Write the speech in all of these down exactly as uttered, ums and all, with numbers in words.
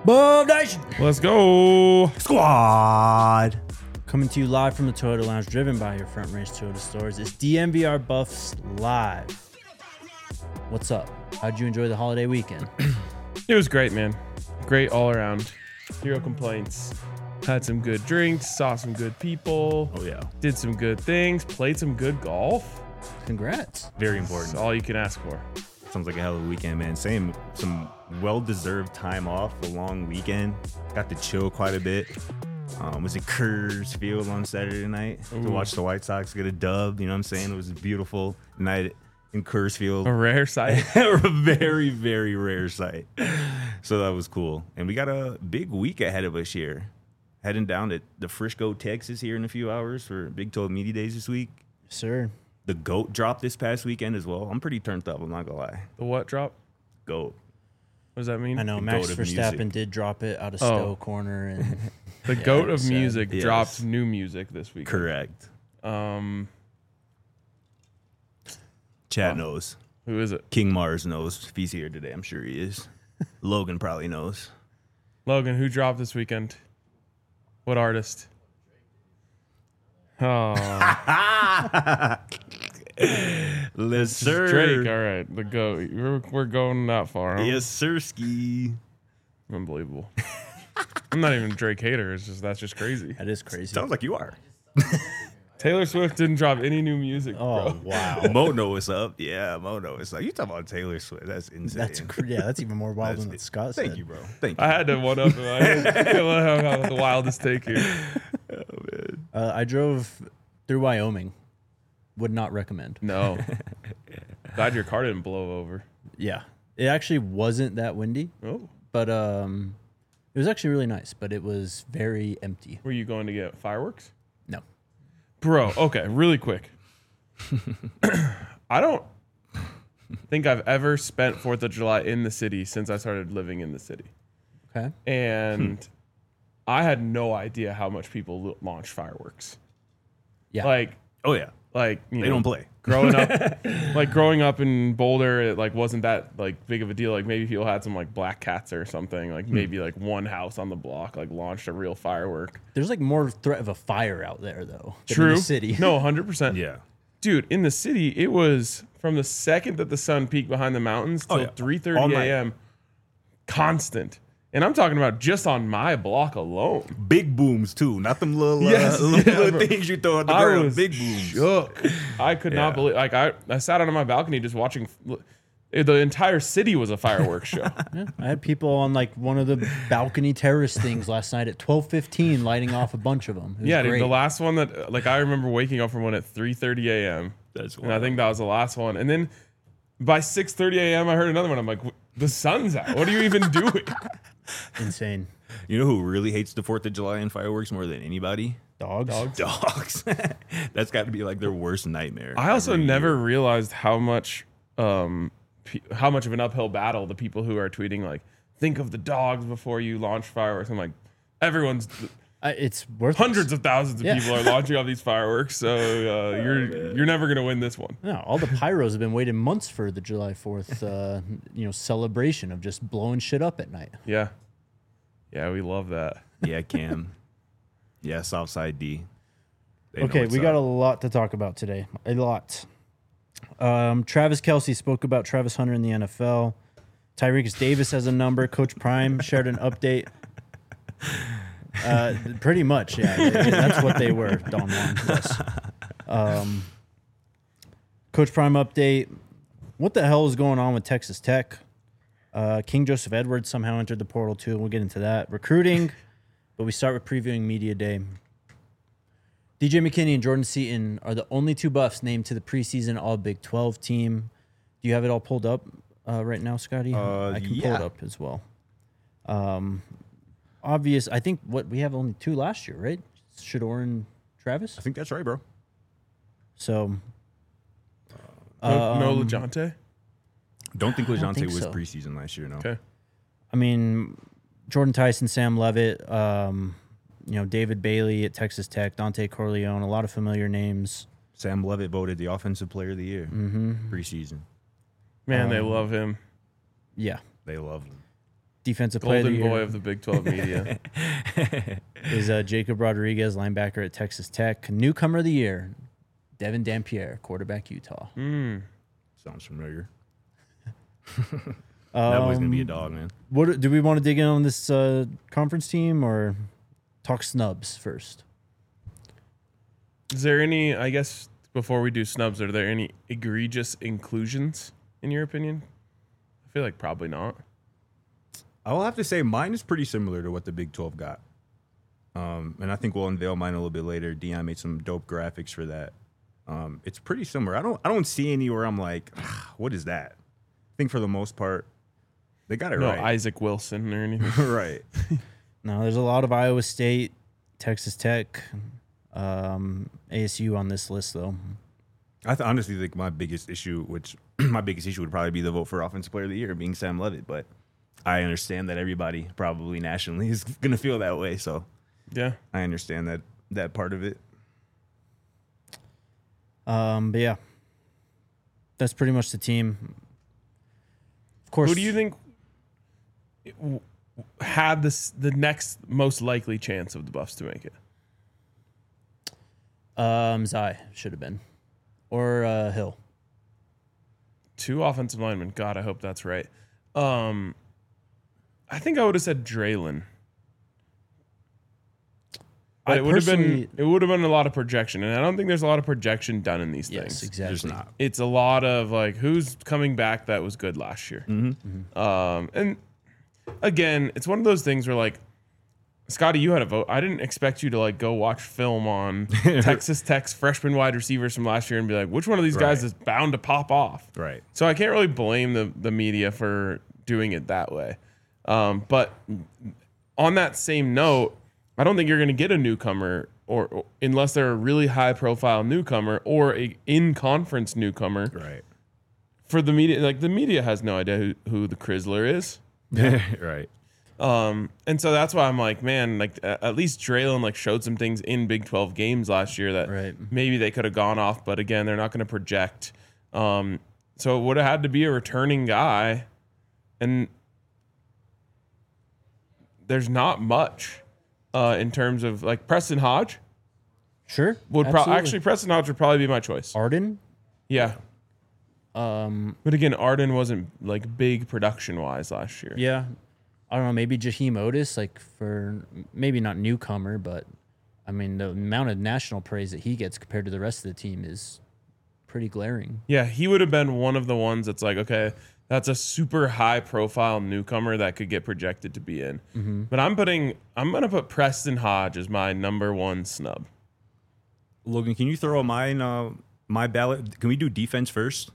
Boom Nation! Let's go. Squad. Coming to you live from the Toyota Lounge, driven by your Front Range Toyota stores. It's D M V R Buffs Live. What's up? How'd you enjoy the holiday weekend? It was great, man. Great all around. Zero complaints. Had some good drinks, saw some good people. Oh, yeah. Did some good things, played some good golf. Congrats. Very That's important. all you can ask for. Sounds like a hell of a weekend, man. Same, some well-deserved time off, a long weekend. Got to chill quite a bit. Um, was in Coors Field on Saturday night Ooh. to watch the White Sox get a dub. You know what I'm saying? It was a beautiful night in Coors Field. A rare sight. A very, very rare sight. So that was cool. And we got a big week ahead of us here. Heading down to the Frisco, Texas here in a few hours for Big twelve Media Days this week. Sir. The GOAT dropped this past weekend as well. I'm pretty turned up, I'm not gonna lie. The what drop? GOAT. What does that mean? I know The Max goat of Verstappen music. did drop it out of Oh. Stowe Corner. And The Yeah, goat of sad. music Yes. dropped new music this week. Correct. Um, Chad Wow. knows. who is it? King Mars knows. If he's here today, I'm sure he is. Logan probably knows. Logan, who dropped this weekend? What artist? Oh, Yes, sir. Drake. All right, the goat. We're, we're going that far. Huh? Yes, sir, ski. Unbelievable. I'm not even a Drake hater. It's just that's just crazy. that is crazy. Sounds like you are. Taylor Swift didn't drop any new music, Oh, bro. wow. Mo know what's up. Yeah, Mo know what's up. You talking about Taylor Swift? That's insane. That's cr- yeah, that's even more wild That's than what it. Scott said. Thank you, bro. Thank you. I had to one up him. I feel like I got the wildest take here. Oh, man. Uh, I drove through Wyoming. Would not recommend. No. Glad your car didn't blow over. Yeah. It actually wasn't that windy, Oh. but um, it was actually really nice, but it was very empty. Were you going to get fireworks? No. Bro, okay, really quick. I don't think I've ever spent fourth of July in the city since I started living in the city. Okay. And I had no idea how much people lo- launch fireworks. Yeah. Like, Oh, yeah. like you They know, don't play. growing up, like growing up in Boulder, it like wasn't that like big of a deal. Like maybe people had some like black cats or something. Like maybe like one house on the block like launched a real firework. There's like more threat of a fire out there though. than True. In the city. No, one hundred percent. Yeah. Dude, in the city, it was from the second that the sun peaked behind the mountains Oh, till yeah. three All thirty night. a.m. Constant. And I'm talking about just on my block alone. Big booms, too. Not them little, Yes, uh, little, yeah, little bro. things you throw at the I ground. was Big booms. shook. I could Yeah. not believe. Like I, I sat out on my balcony just watching. The entire city was a fireworks show. Yeah, I had people on like one of the balcony terrace things last night at twelve fifteen lighting off a bunch of them. It was Yeah, dude, great. the last one that like I remember waking up from one at three thirty a.m. That's and I think that was the last one. And then by six thirty a.m. I heard another one. I'm like, the sun's out. What are you even doing? Insane. You know who really hates the fourth of July and fireworks more than anybody? Dogs. Dogs. Dogs. That's got to be like their worst nightmare. I also every never year. realized how much, um, pe- how much of an uphill battle the people who are tweeting like, think of the dogs before you launch fireworks. I'm like, everyone's I, it's worth hundreds of thousands of Yeah. people are launching all these fireworks, so uh, you're you're never gonna win this one. No, all the pyros have been waiting months for the July fourth, uh, you know, celebration of just blowing shit up at night. Yeah, yeah, we love that. Yeah, Cam. Yeah, Southside D. They know Okay, what's we got a up. lot to talk about today. A lot. Um, Travis Kelce spoke about Travis Hunter in the N F L. Tyreek Davis has a number. Coach Prime shared an update. Uh, pretty much, yeah. They- That's what they were, Don Juan. Yes. Um, Coach Prime update. What the hell is going on with Texas Tech? Uh, King Joseph Edwards somehow entered the portal too. We'll get into that. Recruiting, but we start with previewing Media Day. D J McKinney and Jordan Seaton are the only two Buffs named to the preseason All Big twelve team. Do you have it all pulled up uh, right now, Scotty? Uh, I can pull yeah. it up as well. Um, obvious. I think what we have only two last year, right? Shador and Travis. I think that's right, bro. So No, no um, LeJounte. Don't think I don't LeJounte think was so. preseason last year, no. Okay. I mean, Jordan Tyson, Sam Levitt, um, you know, David Bailey at Texas Tech, Dante Corleone, a lot of familiar names. Sam Levitt voted the Offensive Player of the Year Mm-hmm. preseason. Man, they Um, love him. Yeah. They love him. defensive player of the Golden year boy of the Big twelve media. is uh, Jacob Rodriguez, linebacker at Texas Tech. Newcomer of the year, Devin Dampier, quarterback Utah. Mm. Sounds familiar. Um, That boy's gonna be a dog, man. What do we want to dig in on this uh, conference team or talk snubs first? Is there any, I guess, before we do snubs, are there any egregious inclusions, in your opinion? I feel like probably not. I will have to say mine is pretty similar to what the Big twelve got. Um, and I think we'll unveil mine a little bit later. Dion made some dope graphics for that. Um, it's pretty similar. I don't I don't see any where I'm like, ah, what is that? I think for the most part, they got it No right. Isaac Wilson or anything. Right. No, there's a lot of Iowa State, Texas Tech, um, A S U on this list, though. I th- honestly think my biggest issue, which my biggest issue would probably be the vote for Offensive Player of the Year being Sam Levitt. But I understand that everybody probably nationally is going to feel that way. So Yeah. I understand that that part of it. Um, but yeah, that's pretty much the team. Of course. Who do you think w- had this the next most likely chance of the Buffs to make it? Um, Zai should have been, or uh, Hill. Two offensive linemen. God, I hope that's right. Um, I think I would have said Draylon. But I it would have been personally- it would have been a lot of projection, and I don't think there's a lot of projection done in these Yes, things. exactly. There's not. It's a lot of like who's coming back that was good last year. Mm-hmm. Um, and again, it's one of those things where like Scotty, you had a vote. I didn't expect you to like go watch film on Texas Tech's freshman wide receivers from last year and be like, which one of these guys Right. is bound to pop off? Right. So I can't really blame the the media for doing it that way. Um, but on that same note, I don't think you're going to get a newcomer or, or unless they're a really high profile newcomer or a in conference newcomer Right. for the media. Like the media has no idea who, who the Chrysler is. Right. Um, and so that's why I'm like, man, like a- at least Draylon like showed some things in Big twelve games last year that Right. maybe they could have gone off, but again, they're not going to project. Um, so it would have had to be a returning guy, and there's not much uh, in terms of like Preston Hodge Sure. would pro- absolutely. actually Preston Hodge would probably be my choice. Arden. Yeah, Um, but again, Arden wasn't like big production wise last year. yeah. I don't know. Maybe Jaheim Otis, like for maybe not newcomer, but I mean the amount of national praise that he gets compared to the rest of the team is pretty glaring. Yeah, he would have been one of the ones that's like, okay, that's a super high profile newcomer that could get projected to be in. Mm-hmm. But I'm putting, I'm going to put Preston Hodge as my number one snub. Logan, can you throw mine, uh, my ballot? Can we do defense first?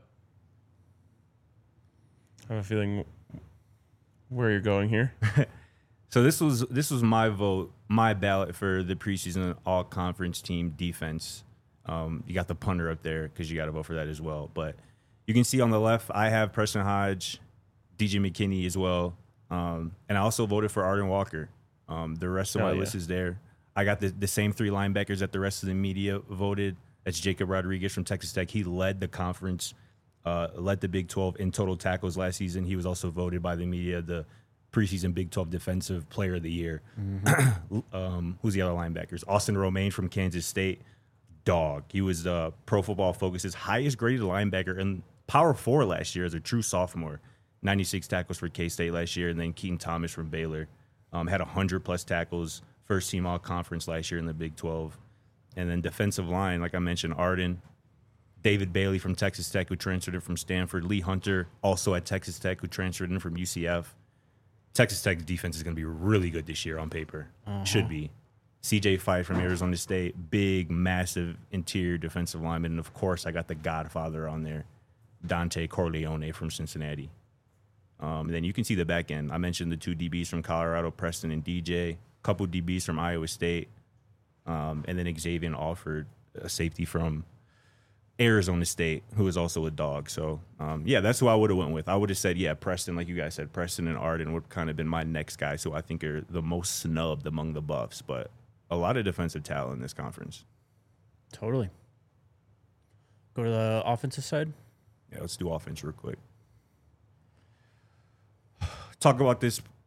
I have a feeling where you're going here. So this was this was my vote, my ballot for the preseason all conference team defense. Um, you got the punter up there because you got to vote for that as well. But you can see on the left, I have Preston Hodge, D J McKinney as well, um, and I also voted for Arden Walker. Um, the rest of Oh, my yeah. list is there. I got the, the same three linebackers that the rest of the media voted. That's Jacob Rodriguez from Texas Tech. He led the conference, uh, led the Big twelve in total tackles last season. He was also voted by the media the preseason Big twelve Defensive Player of the Year. um, who's the other linebackers? Austin Romaine from Kansas State. Dog. He was uh, Pro Football Focus's highest graded linebacker in Power Four last year as a true sophomore. ninety-six tackles for K-State last year. And then Keaton Thomas from Baylor um, had one hundred plus tackles, first team all conference last year in the Big twelve. And then defensive line, like I mentioned, Arden, David Bailey from Texas Tech, who transferred in from Stanford, Lee Hunter, also at Texas Tech, who transferred in from U C F. Texas Tech's defense is going to be really good this year on paper. Should be. C J Fight from Arizona State, big, massive interior defensive lineman. And, of course, I got the godfather on there, Dante Corleone from Cincinnati. Um, and then you can see the back end. I mentioned the two D Bs from Colorado, Preston and D J, a couple D Bs from Iowa State, um, and then Xavier Alford, a safety from Arizona State, who is also a dog. So, um, yeah, that's who I would have went with. I would have said, yeah, Preston, like you guys said, Preston and Arden would kind of been my next guys who I think are the most snubbed among the Buffs. But a lot of defensive talent in this conference. Totally. Go to the offensive side. Yeah, let's do offense real quick. Talk about this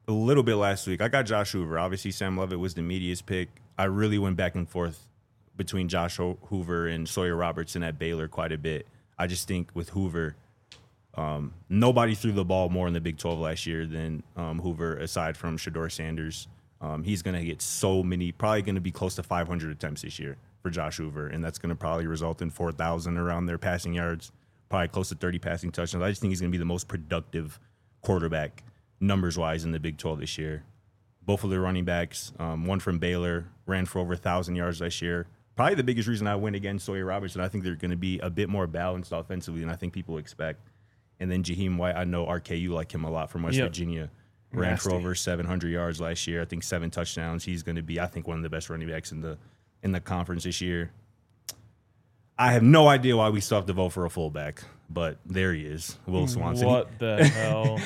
a little bit last week. I got Josh Hoover. Obviously, Sam Levitt was the media's pick. I really went back and forth between Josh Ho- Hoover and Sawyer Robertson at Baylor quite a bit. I just think with Hoover, um, nobody threw the ball more in the Big twelve last year than um, Hoover, aside from Shedeur Sanders. Um, he's going to get so many, probably going to be close to five hundred attempts this year for Josh Hoover, and that's going to probably result in four thousand around their passing yards, probably close to thirty passing touchdowns. I just think he's going to be the most productive quarterback numbers-wise in the Big twelve this year. Both of the running backs, um, one from Baylor, ran for over one thousand yards last year. Probably the biggest reason I went against Sawyer Robertson, I think they're going to be a bit more balanced offensively than I think people expect. And then Jaheim White, I know R K, you like him a lot from West Yep. Virginia. Ran Nasty. for over seven hundred yards last year. I think seven touchdowns. He's going to be, I think, one of the best running backs in the in the conference this year. I have no idea why we still have to vote for a fullback, but there he is, Will Swanson. What the hell?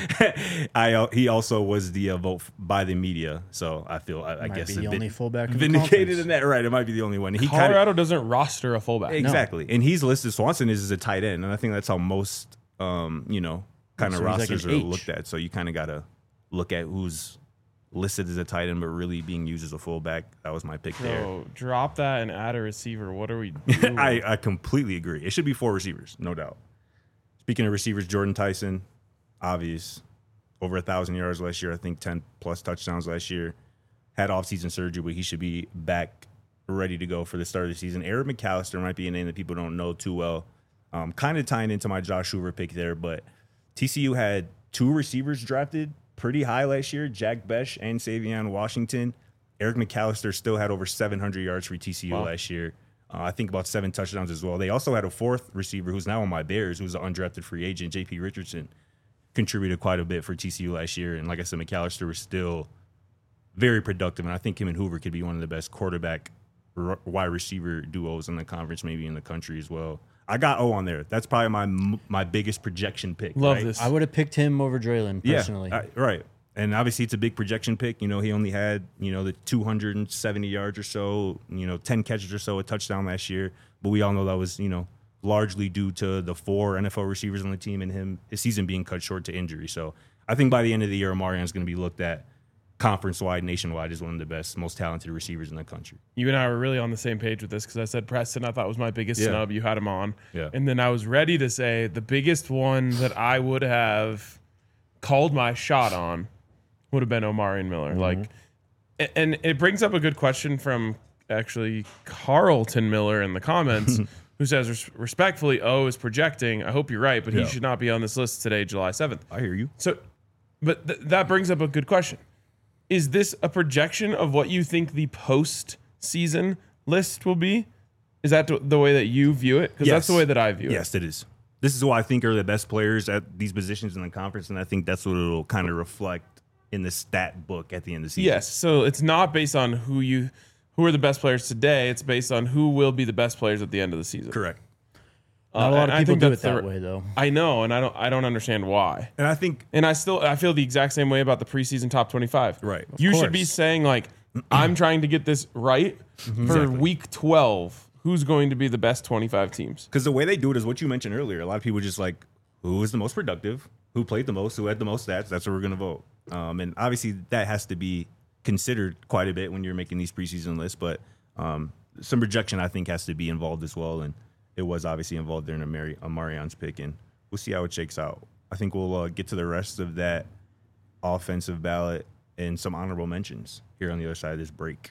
I uh, he also was the uh, vote by the media, so I feel I, I Might guess be a the bit only fullback in the vindicated conference. in that. Right, it might be the only one. He kind Colorado of doesn't roster a fullback. exactly, and he's listed. Swanson is as a tight end, and I think that's how most um, you know kind of So he's like rosters an are H. looked at. So you kind of got to look at who's listed as a tight end, but really being used as a fullback. That was my pick there. Bro, drop that and add a receiver. What are we doing? I, I completely agree. It should be four receivers, no doubt. Speaking of receivers, Jordan Tyson, obvious. Over a thousand yards last year, I think ten plus touchdowns last year. Had offseason surgery, but he should be back ready to go for the start of the season. Eric McAllister might be a name that people don't know too well. Um, kind of tying into my Josh Hoover pick there, but T C U had two receivers drafted pretty high last year, Jack Besh and Savion Washington. Eric McAllister still had over seven hundred yards for T C U Wow. last year. Uh, I think about seven touchdowns as well. They also had a fourth receiver who's now on my Bears, who's an undrafted free agent, J P Richardson. Contributed quite a bit for T C U last year. And like I said, McAllister was still very productive. And I think him and Hoover could be one of the best quarterback r- wide receiver duos in the conference, maybe in the country as well. I got O on there. That's probably my my biggest projection pick. Love right? this. I would have picked him over Draylon personally. Yeah, I- right. And obviously it's a big projection pick. You know, he only had, you know, the two hundred seventy yards or so, you know, ten catches or so, a touchdown last year. But we all know that was, you know, largely due to the four N F L receivers on the team and him, his season being cut short to injury. So I think by the end of the year, Omarion's going to be looked at conference-wide, nationwide as one of the best, most talented receivers in the country. You and I were really on the same page with this because I said Preston, I thought was my biggest Yeah. snub. You had him on. Yeah. And then I was ready to say the biggest one that I would have called my shot on would have been Omarion Miller. Mm-hmm. Like, a- and it brings up a good question from actually Carlton Miller in the comments, who says res- respectfully, O is projecting. I hope you're right, but Yeah. he should not be on this list today, July seventh. I hear you. So, but th- that brings up a good question. Is this a projection of what you think the post-season list will be? Is that t- the way that you view it? Because that's the Yes. way that I view it. Yes, it is. This is who I think are the best players at these positions in the conference, and I think that's what it'll kind of reflect in the stat book at the end of the season. Yes. So it's not based on who you who are the best players today. It's based on who will be the best players at the end of the season. Correct. Not a Uh, lot and of I people think do it that's that the- way, though. I know, and I don't. I don't understand why. And I think And I still I feel the exact same way about the preseason top twenty-five. Right. Of You should be course. saying like, I'm trying to get this right for Exactly. week twelve. Who's going to be the best twenty-five teams? because the way they do it is what you mentioned earlier. A lot of people just like, who was the most productive, who played the most, who had the most stats. That's what we're going to vote. Um, and obviously that has to be considered quite a bit when you're making these preseason lists. But um, some projection, I think, has to be involved as well. And it was obviously involved during Amari- Amarion's pick. And we'll see how it shakes out. I think we'll uh, get to the rest of that offensive ballot and some honorable mentions here on the other side of this break.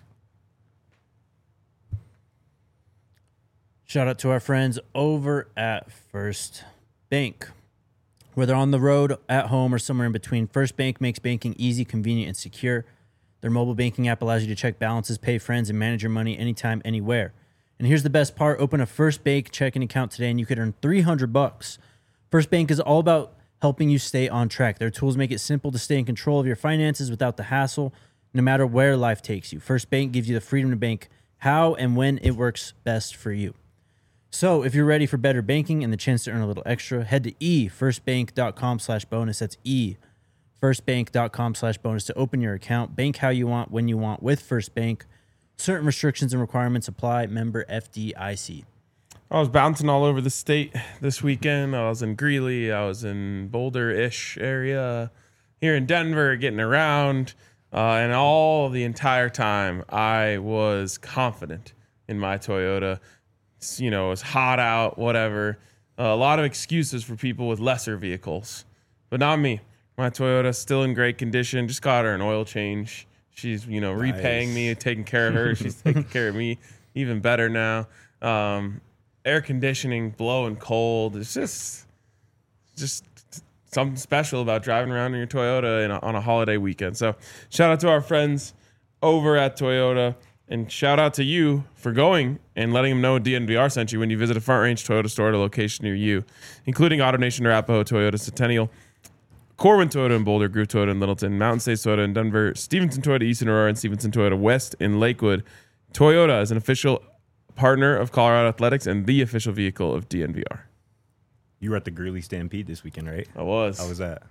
Shout out to our friends over at First Bank. Whether on the road, at home, or somewhere in between, First Bank makes banking easy, convenient, and secure. Their mobile banking app allows you to check balances, pay friends, and manage your money anytime, anywhere. And here's the best part. Open a First Bank checking account today and you could earn three hundred bucks. First Bank is all about helping you stay on track. Their tools make it simple to stay in control of your finances without the hassle, no matter where life takes you. First Bank gives you the freedom to bank how and when it works best for you. So if you're ready for better banking and the chance to earn a little extra, head to efirstbank.com slash bonus. That's efirstbank.com slash bonus to open your account. Bank how you want, when you want with First Bank. Certain restrictions and requirements apply. Member F D I C. I was bouncing all over the state this weekend. I was in Greeley. I was in Boulder-ish area. here in Denver, getting around, uh, and all the entire time I was confident in my Toyota. It's, you know, it was hot out, whatever. Uh, a lot of excuses for people with lesser vehicles, but not me. My Toyota's still in great condition. Just got her an oil change. She's, you know, Nice. repaying me, taking care of her. She's taking care of me even better now. Um, air conditioning, blowing cold. It's just, just something special about driving around in your Toyota in a, on a holiday weekend. So shout out to our friends over at Toyota, and shout out to you for going and letting them know D N V R sent you when you visit a Front Range Toyota store at a location near you, including AutoNation Arapahoe, Toyota Centennial, Corwin Toyota in Boulder, Groove Toyota in Littleton, Mountain States Toyota in Denver, Stevenson Toyota East in Aurora, and Stevenson Toyota West in Lakewood. Toyota is an official partner of Colorado Athletics and the official vehicle of D N V R. You were at the Greeley Stampede this weekend, right? I was. How was that?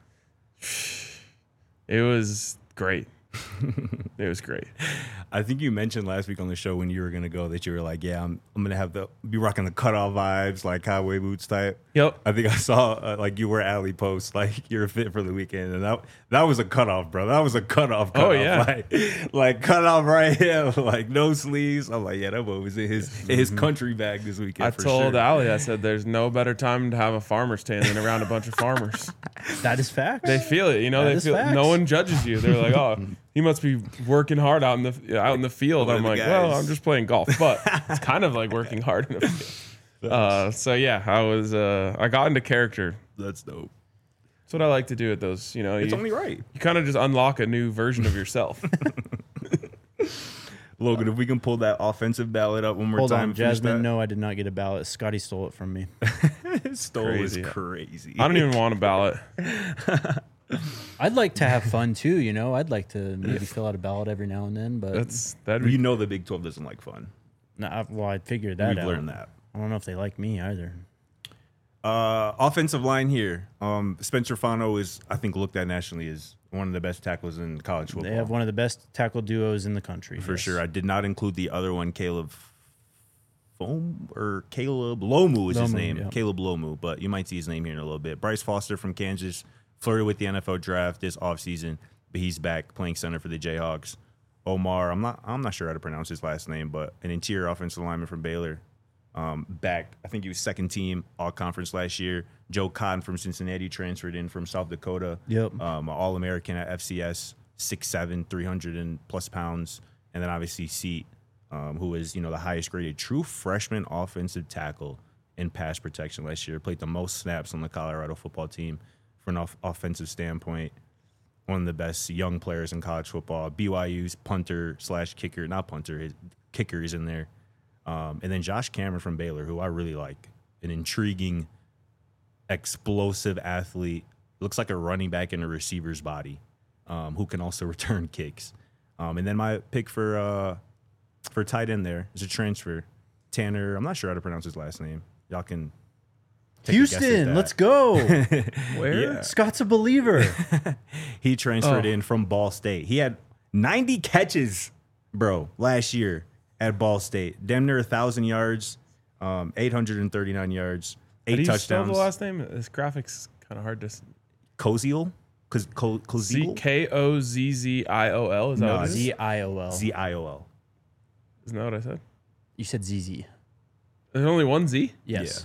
It was great. It was great. I think you mentioned last week on the show when you were gonna go that you were like, yeah, I'm I'm gonna have the be rocking the cutoff vibes, like highway boots type. Yep. I think I saw uh, like you were alley post, like you're fit for the weekend, and that that was a cutoff, bro. That was a cutoff. cutoff. Oh, yeah. like, like cutoff right here, like no sleeves. I'm like, yeah, that boy was in his in his country bag this weekend. I for told sure. Allie, I said, there's no better time to have a farmer's tan than around a bunch of farmers. That is fact. They feel it, you know. That They is feel facts. no one judges you. They're like, oh, he must be working hard out in the out in the field. One I'm of the like, well, guys. I'm just playing golf, but it's kind of like working hard in the field. Uh, so yeah, I was uh, I got into character. That's dope. That's what I like to do at those. You know, It's you, only right. you kind of just unlock a new version of yourself. Logan, if we can pull that offensive ballot up one more Hold time. on, finish Jasmine. that. No, I did not get a ballot. Scotty stole it from me. Stole Crazy. is crazy. I don't even want a ballot. I'd like to have fun too, you know. I'd like to maybe fill out a ballot every now and then, but That's that'd be You know the Big twelve doesn't like fun. nah, well, I'd figure that We've out. learned that. I don't know if they like me either. Uh, offensive line here. Um, Spencer Fano is, I think, looked at nationally as one of the best tackles in college football. They have one of the best tackle duos in the country for yes. sure. I did not include the other one, Caleb Foam or Caleb Lomu is his Lomu, name. yeah. Caleb Lomu, but you might see his name here in a little bit. Bryce Foster from Kansas flirted with the N F L draft this offseason, but he's back playing center for the Jayhawks. Omar, I'm not I'm not sure how to pronounce his last name, but an interior offensive lineman from Baylor. Um, back, I think he was second team all conference last year. Joe Cotton from Cincinnati transferred in from South Dakota. Yep. Um, all American at F C S, six seven, three hundred and plus pounds. And then obviously Seat, um, who is, you know, the highest graded true freshman offensive tackle in pass protection last year. Played the most snaps on the Colorado football team from an off- offensive standpoint. One of the best young players in college football. B Y U's punter slash kicker, not punter, his kicker is in there. Um, and then Josh Cameron from Baylor, who I really like, an intriguing, explosive athlete. Looks like a running back in a receiver's body, um, who can also return kicks. Um, and then my pick for uh, for tight end there is a transfer, Tanner. I'm not sure how to pronounce his last name. Y'all can. take a guess at Houston, that. let's go. Where? Yeah. Scott's a believer. He transferred Oh. in from Ball State. He had ninety catches, bro, last year at Ball State. Damn near one thousand yards, um, eight hundred thirty-nine yards, How eight do you spell touchdowns. the last name? This graphic's kind of hard to. s- Koziel? Cause Ko- C Koziel? K O Z Z I O L. Is that No, what it is? Z I O L. Z I O L. Isn't that what I said? You said Z Z. There's only one Z. Yes.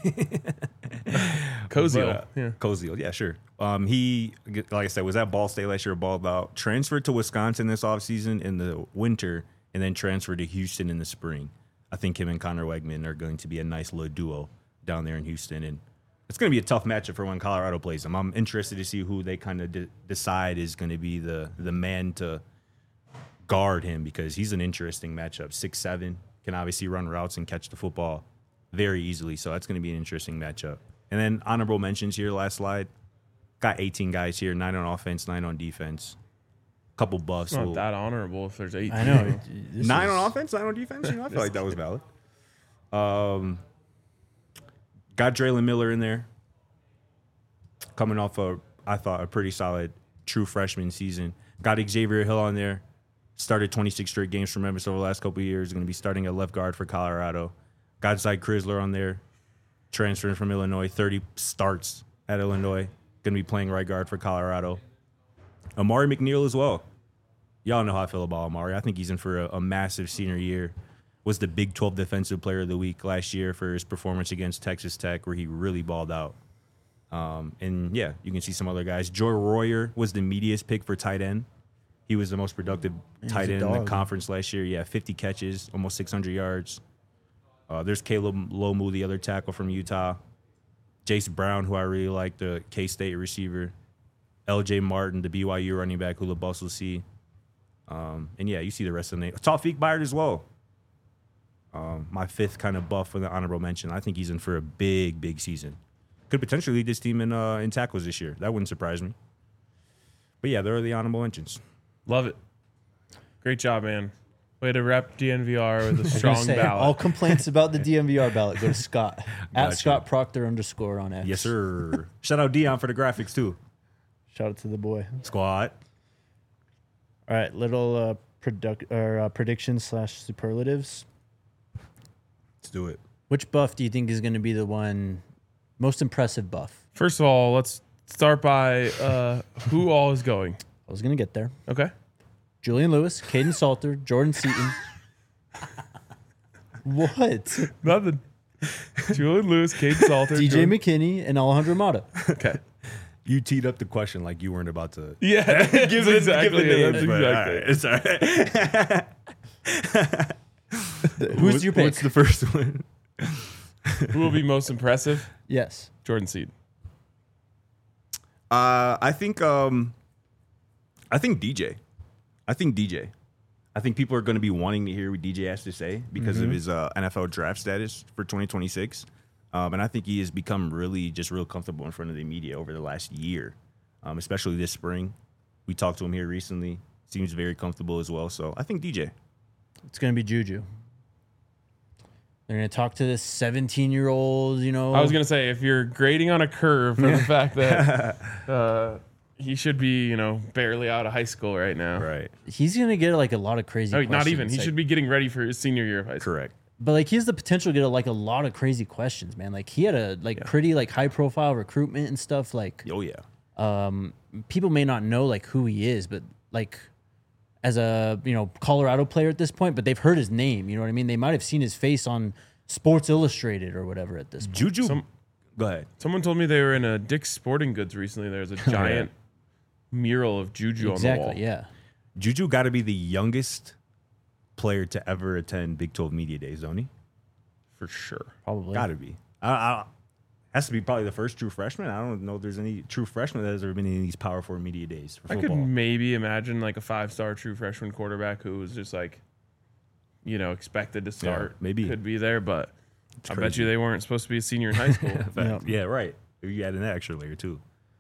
Koziel. But, uh, Yeah. Koziel, yeah, sure. Um, he, like I said, was at Ball State last year, balled out, transferred to Wisconsin this offseason in the winter, and then transferred to Houston in the spring. I think him and Connor Wegman are going to be a nice little duo down there in Houston, and it's going to be a tough matchup for when Colorado plays them. I'm interested to see who they kind of de- decide is going to be the the man to guard him, because he's an interesting matchup. six seven, can obviously run routes and catch the football very easily, so that's going to be an interesting matchup. And then honorable mentions here, last slide. Got eighteen guys here, nine on offense, nine on defense. Couple buffs. It's not We'll- that honorable if there's eight. I know. This nine is- on offense, nine on defense. You know, I feel like that was valid. Um, got Draylon Miller in there, coming off a, I thought, a pretty solid true freshman season. Got Xavier Hill on there. Started twenty-six straight games for Memphis over the last couple of years. Going to be starting at left guard for Colorado. Got Zy Crisler on there, transferring from Illinois. thirty starts at Illinois. Going to be playing right guard for Colorado. Amari McNeil as well. Y'all know how I feel about Amari. I think he's in for a, a massive senior year. Was the Big twelve Defensive Player of the Week last year for his performance against Texas Tech, where he really balled out. Um, and, yeah, you can see some other guys. Joy Royer was the media's pick for tight end. He was the most productive He's tight a end in the dog. conference last year. Yeah, fifty catches, almost six hundred yards. Uh, there's Caleb Lomu, the other tackle from Utah. Jace Brown, who I really like, the K-State receiver. L J Martin, the B Y U running back, who the Bucs will see. Um, and, yeah, you see the rest of the name. Tawfiq Byard as well. Um, my fifth kind of buff for the honorable mention. I think he's in for a big, big season. Could potentially lead this team in uh, in tackles this year. That wouldn't surprise me. But, yeah, there are the honorable mentions. Love it. Great job, man. Way to rep D N V R with a I was gonna strong say, ballot. all complaints about the D M V R ballot go to Scott at Gotcha. Scott Proctor underscore on X. Yes, sir. Shout out Dion for the graphics, too. Shout out to the boy. Squad. All right, little uh, product or uh, predictions slash superlatives. Let's do it. Which buff do you think is going to be the one most impressive buff? First of all, let's start by uh, who all is going. I was going to get there. Okay. Julian Lewis, Caden Salter, Jordan Seaton. What? Nothing. Julian Lewis, Cade Salter. D J Jordan- McKinney and Alejandro Mata. Okay. You teed up the question like you weren't about to. Yeah. Give it, exactly give it it. names, That's but, exactly all right, it's all right. Who's your pick? What's the first one? Who will be most impressive? Yes. Jordan Seed. Uh, I think um, I think D J. I think D J. I think people are going to be wanting to hear what D J has to say because of his uh, N F L draft status for twenty twenty-six. Um, and I think he has become really just real comfortable in front of the media over the last year, um, especially this spring. We talked to him here recently. Seems very comfortable as well. So I think D J. It's going to be Juju. They're going to talk to this seventeen-year-old, you know. I was going to say, if you're grading on a curve for the fact that uh, he should be, you know, barely out of high school right now. Right. He's going to get like a lot of crazy Oh, not questions. even. He like- should be getting ready for his senior year of high school. Correct. But like he has the potential to get a, like a lot of crazy questions, man. Like he had a like pretty like high profile recruitment and stuff. Like Oh, yeah. um, people may not know like who he is, but like as a you know Colorado player at this point, but they've heard his name. You know what I mean? They might have seen his face on Sports Illustrated or whatever at this point. Juju. Some- Go ahead. Someone told me they were in a Dick's Sporting Goods recently. There was a giant mural of Juju on the wall. Exactly. Yeah. Juju got to be the youngest player to ever attend Big twelve Media Days, don't he? For sure. Probably. Got to be. I, I, has to be probably the first true freshman. I don't know if there's any true freshman that has ever been in these Power Four Media Days for I football. could maybe imagine like a five-star true freshman quarterback who was just like, you know, expected to start. maybe. Could be there, but I bet crazy. you they weren't supposed to be a senior in high school. Yeah. Yeah, right. You add in that extra layer too.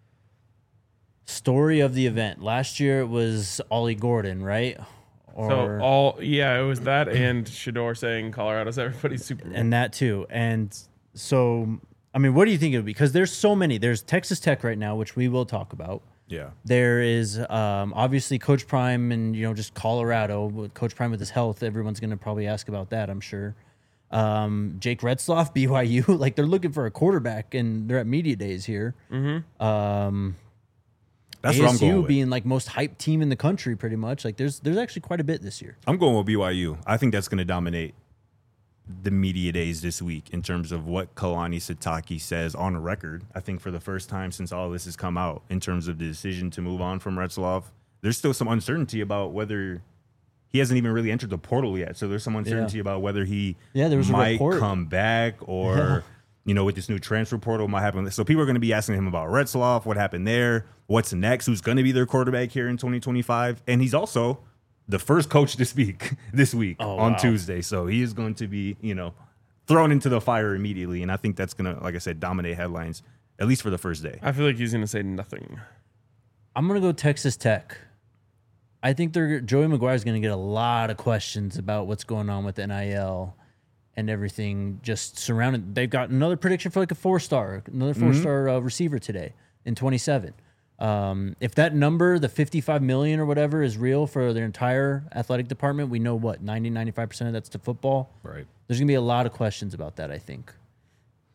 Story of the event. Last year it was Ollie Gordon, right? Or So all yeah, it was that and Shador saying Colorado's everybody's Super Bowl. and that too. And so, I mean, what do you think it would be? Because there's so many. There's Texas Tech right now, which we will talk about. Yeah. There is um, obviously Coach Prime and, you know, just Colorado. With Coach Prime with his health, everyone's going to probably ask about that, I'm sure. Um, Jake Retzloff, B Y U, like they're looking for a quarterback and they're at media days here. Mm-hmm. Um, That's A what I'm S U going with. being like most hyped team in the country, pretty much. Like there's there's actually quite a bit this year. I'm going with B Y U. I think that's going to dominate the media days this week in terms of what Kalani Sitake says on record. I think for the first time since all this has come out in terms of the decision to move on from Retzloff, there's still some uncertainty about whether he hasn't even really entered the portal yet. So there's some uncertainty Yeah. about whether he Yeah, there was a might report. come back or, Yeah. you know, with this new transfer portal might happen. So people are going to be asking him about Retzloff, what happened there, what's next, who's going to be their quarterback here in twenty twenty-five. And he's also the first coach to speak this week Oh, on wow. Tuesday. So he is going to be, you know, thrown into the fire immediately. And I think that's going to, like I said, dominate headlines, at least for the first day. I feel like he's gonna say nothing. I'm gonna go Texas Tech. I think they're Joey McGuire's gonna get a lot of questions about what's going on with N I L and everything just surrounded. They've got another prediction for like a four star, another four star uh, receiver today in twenty-seven. Um, if that number, the fifty-five million or whatever, is real for their entire athletic department, we know what ninety, ninety-five percent of that's to football. Right. There's gonna be a lot of questions about that, I think.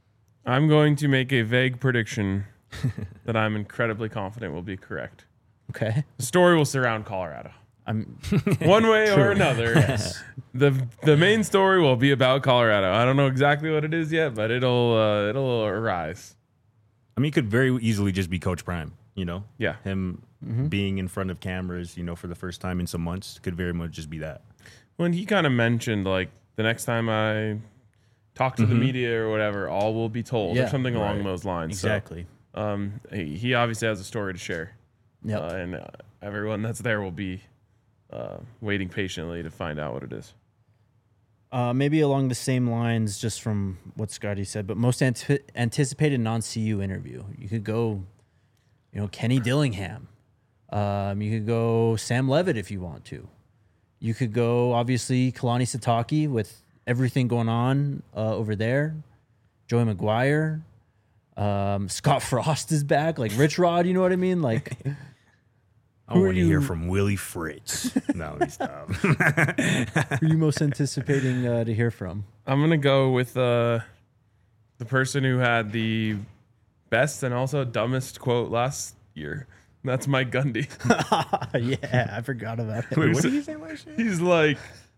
I'm going to make a vague prediction that I'm incredibly confident will be correct. Okay. The story will surround Colorado. I'm One way True. or another. the The main story will be about Colorado. I don't know exactly what it is yet, but it'll uh, it'll arise. I mean, it could very easily just be Coach Prime, you know? Yeah. Him Mm-hmm. being in front of cameras, you know, for the first time in some months could very much just be that. When he kind of mentioned, like, the next time I talk to the media or whatever, all will be told or Yeah, something along right. those lines. exactly. So, um, he, he obviously has a story to share. Yep. Uh, and uh, everyone that's there will be uh, waiting patiently to find out what it is. Uh, maybe along the same lines, just from what Scotty said, but most ant- anticipated non-C U interview. You could go, you know, Kenny Dillingham. Um, you could go Sam Levitt if you want to. You could go, obviously, Kalani Sitake with everything going on uh, over there. Joey McGuire. Um, Scott Frost is back. Like Rich Rod, you know what I mean? Like, I Who are want to hear you- from Willie Fritz. No, let me stop. who are you most anticipating uh, to hear from? I'm going to go with uh, the person who had the best and also dumbest quote last year. That's Mike Gundy. Yeah, I forgot about it. Wait, what did you say last year? He's like,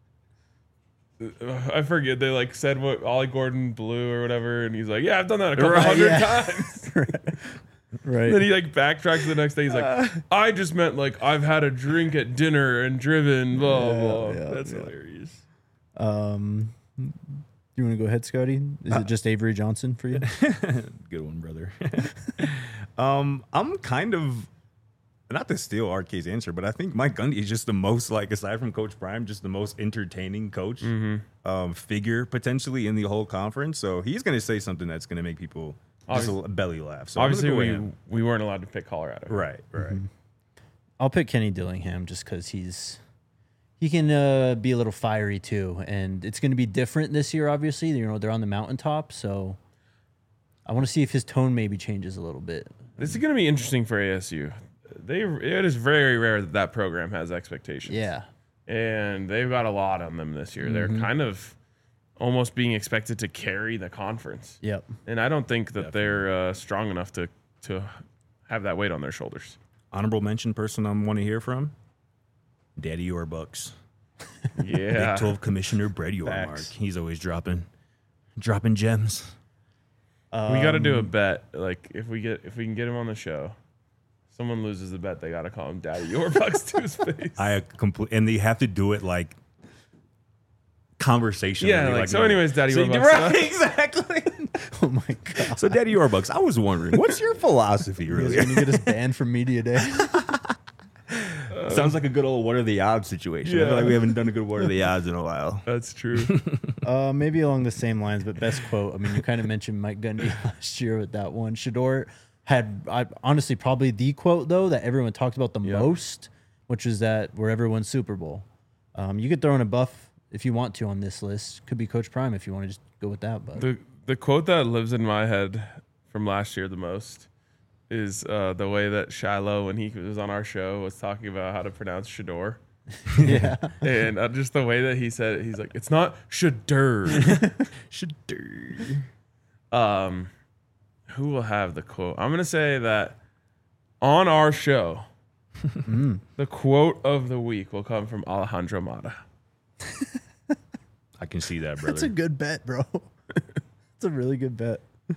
I forget. They like said what Ollie Gordon blew or whatever, and he's like, "Yeah, I've done that a couple Right, hundred yeah. times." Right. Then he like backtracks the next day. He's like, "I just meant like I've had a drink at dinner and driven." Blah Yeah, blah. yeah, That's yeah. hilarious. Um, you want to go ahead, Scotty? Is it just Avery Johnson for you? Good one, brother. um, I'm kind of not to steal R K's answer, but I think Mike Gundy is just the most, like, aside from Coach Prime, just the most entertaining coach um, figure potentially in the whole conference. So he's going to say something that's going to make people just a belly laugh. So I'm Obviously, gonna go we with him. we weren't allowed to pick Colorado. right, right. I'll pick Kenny Dillingham just because he's he can uh, be a little fiery too, and it's going to be different this year. Obviously, you know they're on the mountaintop, so I want to see if his tone maybe changes a little bit. This is going to be interesting for A S U. They it is very rare that that program has expectations. Yeah, and they've got a lot on them this year. They're kind of almost being expected to carry the conference, yep. and I don't think that they're uh, strong enough to to have that weight on their shoulders. Honorable mention person I want to hear from, Daddy Yorbucks. Yeah, Big twelve Commissioner Brett Yormark. Facts. He's always dropping, dropping gems. we got to do a bet. Like if we get if we can get him on the show, someone loses the bet, they got to call him Daddy Yorbucks to his face. I complete, and they have to do it like conversation. Yeah, like, so anyways, Daddy Yorbucks. Right, exactly. Oh my god! So, Daddy Yorbucks, I was wondering, what's your philosophy, really? When you get us banned from media day, Sounds like a good old what are the odds situation. I Yeah. feel like we haven't done a good what are the odds in a while. That's true. uh, maybe along the same lines, but best quote. I mean, you kind of mentioned Mike Gundy last year with that one. Shador had, I, honestly, probably the quote though that everyone talked about the Yep. most, which is that we're everyone's Super Bowl. Um, you could throw in a buff if you want to on this list. Could be Coach Prime if you want to just go with that. But the the quote that lives in my head from last year the most is uh, the way that Shiloh, when he was on our show, was talking about how to pronounce Shador. yeah, And uh, just the way that he said it, he's like, it's not Shador. Shador. um, who will have the quote? I'm going to say that on our show, the quote of the week will come from Alejandro Mata. I can see that, brother. that's a good bet, bro. It's a really good bet.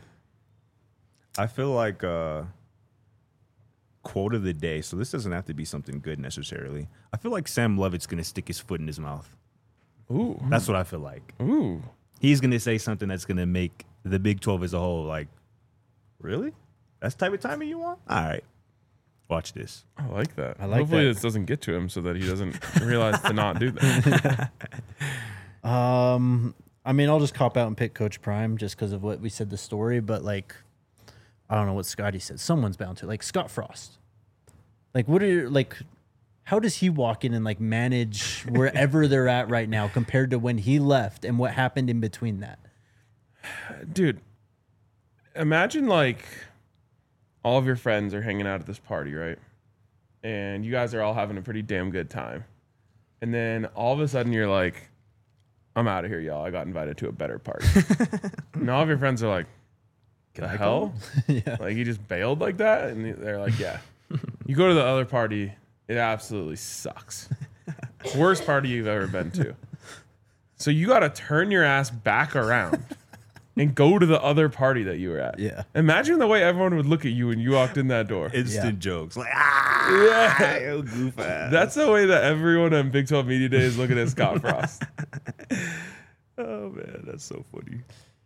I feel like uh, quote of the day. So this doesn't have to be something good necessarily. I feel like Sam Levitt's going to stick his foot in his mouth. Ooh. That's what I feel like. Ooh. He's going to say something that's going to make the Big twelve as a whole like, really? That's the type of timing you want? All right. Watch this. I like that. I like Hopefully that. this doesn't get to him so that he doesn't realize to not do that. Um, I mean, I'll just cop out and pick Coach Prime just because of what we said the story. But like, I don't know what Scotty said. Someone's bound to like Scott Frost. Like, what are your, like? How does he walk in and like manage wherever they're at right now compared to when he left and what happened in between that? Dude, imagine like all of your friends are hanging out at this party, right? And you guys are all having a pretty damn good time. And then all of a sudden you're like, I'm out of here, y'all. I got invited to a better party. And all of your friends are like, the I hell? yeah. Like, you just bailed like that? And they're like, yeah. You go to the other party, it absolutely sucks. Worst party you've ever been to. So you got to turn your ass back around and go to the other party that you were at. Yeah. Imagine the way everyone would look at you when you walked in that door. Instant Yeah. jokes. Like, ah, Yeah. yo, goof ass. That's the way that everyone on Big twelve Media Day is looking at Scott Frost. Oh, man, that's so funny.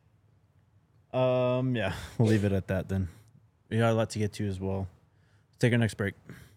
Um, yeah, we'll leave it at that then. We got a lot to get to as well. Let's take our next break.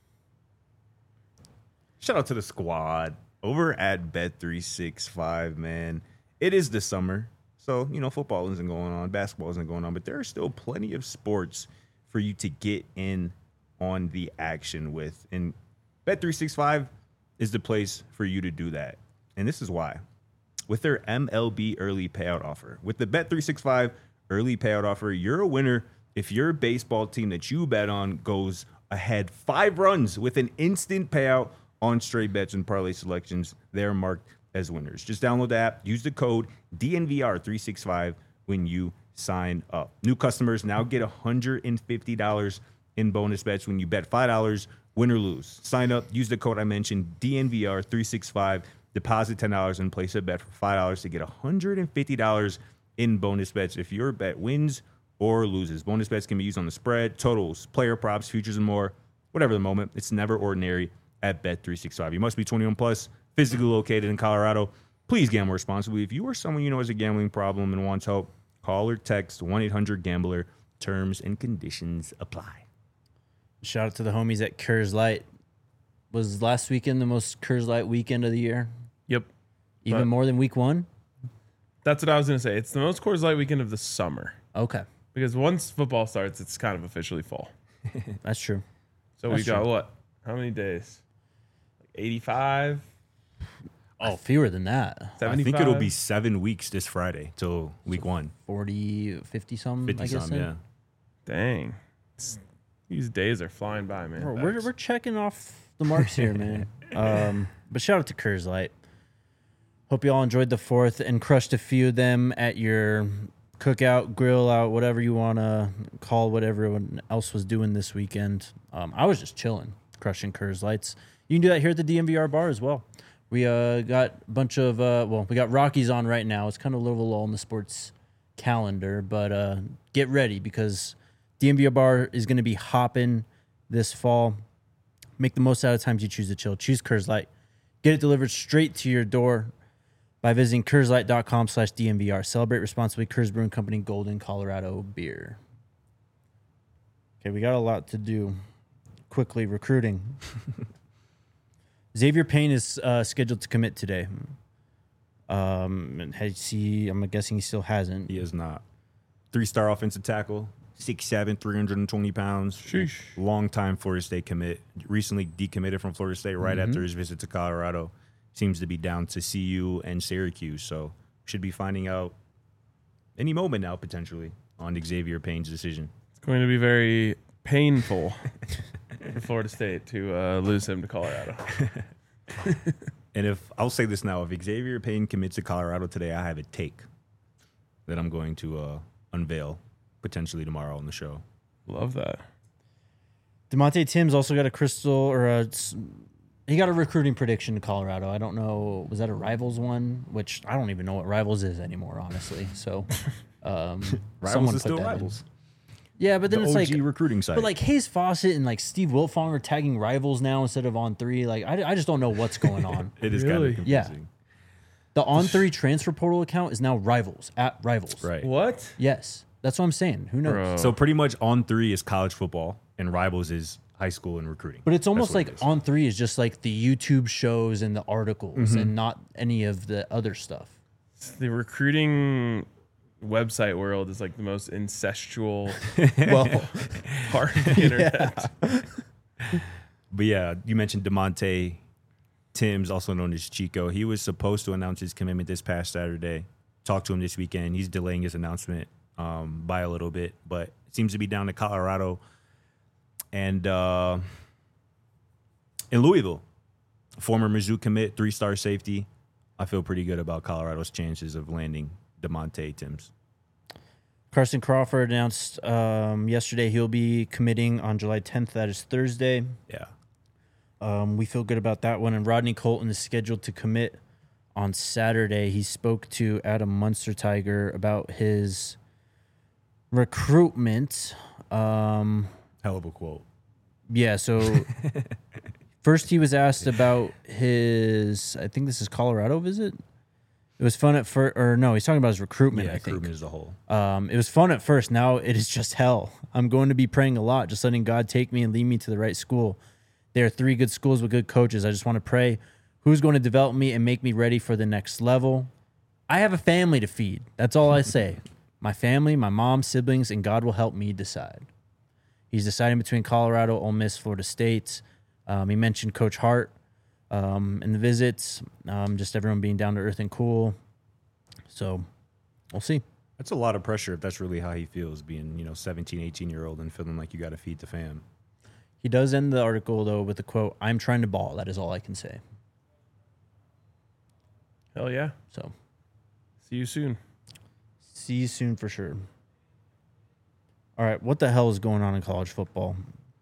Shout out to the squad over at Bet three sixty-five, man. It is the summer, so, you know, football isn't going on, basketball isn't going on, but there are still plenty of sports for you to get in on the action with. And Bet three sixty-five is the place for you to do that. And this is why. With their M L B early payout offer. With the Bet three sixty-five early payout offer, you're a winner if your baseball team that you bet on goes ahead five runs with an instant payout on straight bets and parlay selections. They're marked as winners. Just download the app, use the code D N V R three sixty-five when you sign up. New customers now get one hundred fifty dollars in bonus bets when you bet five dollars, win or lose. Sign up, use the code I mentioned, D N V R three sixty-five, deposit ten dollars and place a bet for five dollars to get one hundred fifty dollars in bonus bets if your bet wins or loses. Bonus bets can be used on the spread, totals, player props, futures, and more. Whatever the moment, it's never ordinary at Bet three sixty-five. You must be twenty-one plus, physically located in Colorado. Please gamble responsibly. If you or someone you know has a gambling problem and wants help, call or text one eight hundred gambler. Terms and conditions apply. Shout out to the homies at Coors Light. Was last weekend the most Coors Light weekend of the year? Yep. Even But- more than week one? That's what I was going to say. It's the most Coors Light weekend of the summer. Okay, Because once football starts, it's kind of officially fall. that's true. So we That's got true. what? How many days? eighty-five? Oh, fewer than that. I seventy-five? think it'll be seven weeks this Friday till week one. forty, fifty some, fifty I guess. some, then. yeah. Dang. It's- these days are flying by, man. We're, we're, we're checking off the marks here, man. Um, but shout out to Coors Light. Hope you all enjoyed the fourth and crushed a few of them at your cookout, grill out, whatever you want to call what everyone else was doing this weekend. Um, I was just chilling, crushing Coors Lights. You can do that here at the D M V R bar as well. We uh, got a bunch of, uh, well, we got Rockies on right now. It's kind of a little lull in the sports calendar, but uh, get ready because D M V R bar is going to be hopping this fall. Make the most out of times you choose to chill. Choose Coors Light. Get it delivered straight to your door by visiting CoorsLight.com slash DMVR. Celebrate responsibly. Coors Brewing Company, Golden, Colorado beer. Okay, we got a lot to do. Quickly, recruiting. Xavier Payne is uh, scheduled to commit today. Um, and has he, I'm guessing he still hasn't. He is not. Three-star offensive tackle, six seven, three hundred twenty pounds. Sheesh. Long time Florida State commit. Recently decommitted from Florida State right Mm-hmm. after his visit to Colorado. Seems to be down to C U and Syracuse. So should be finding out any moment now, potentially, on Xavier Payne's decision. It's going to be very painful for Florida State to uh, lose him to Colorado. And if I'll say this now, if Xavier Payne commits to Colorado today, I have a take that I'm going to uh, unveil potentially tomorrow on the show. Love that. DeMonte Timms also got a crystal or a, he got a recruiting prediction to Colorado. I don't know. Was that a Rivals one? Which I don't even know what Rivals is anymore, honestly. So, um, Rivals someone is put still that in. Rivals. Yeah, but then The it's O like G recruiting site. But like Hayes Fawcett and like Steve Wiltfong are tagging Rivals now instead of On Three. Like I, I just don't know what's going on. it is Really? kind of Yeah. confusing. The On Three transfer portal account is now Rivals at Rivals. Right. What? Yes, that's what I'm saying. Who knows? Bro. So pretty much on three is college football and Rivals is high school and recruiting. But it's almost That's what like it is. On Three is just like the YouTube shows and the articles Mm-hmm. and not any of the other stuff. The recruiting website world is like the most incestual Well, part of the internet. But yeah, you mentioned DeMonte Timms, also known as Chico. He was supposed to announce his commitment this past Saturday. Talked to him this weekend. He's delaying his announcement um, by a little bit, but it seems to be down to Colorado and uh, in Louisville. Former Mizzou commit, three-star safety. I feel pretty good about Colorado's chances of landing DeMonte Timms. Carson Crawford announced um, yesterday he'll be committing on July tenth. That is Thursday. Yeah. Um, we feel good about that one. And Rodney Colton is scheduled to commit on Saturday. He spoke to Adam Munster Tiger about his recruitment. Um, Hell of a quote. yeah, so first he was asked about his, I think this is Colorado visit. It was fun at first, or no, he's talking about his recruitment, Yeah, I think. recruitment as a whole. Um, it was fun at first. Now it is just hell. I'm going to be praying a lot, just letting God take me and lead me to the right school. There are three good schools with good coaches. I just want to pray who's going to develop me and make me ready for the next level. I have a family to feed. That's all I say. My family, my mom, siblings, and God will help me decide. He's deciding between Colorado, Ole Miss, Florida State. Um, he mentioned Coach Hart um, in the visits, um, just everyone being down to earth and cool. So we'll see. That's a lot of pressure if that's really how he feels, being, you know, seventeen, eighteen-year-old and feeling like you got to feed the fam. He does end the article, though, with the quote, "I'm trying to ball." That is all I can say. Hell yeah. So See you soon. see you soon for sure. All right, what the hell is going on in college football?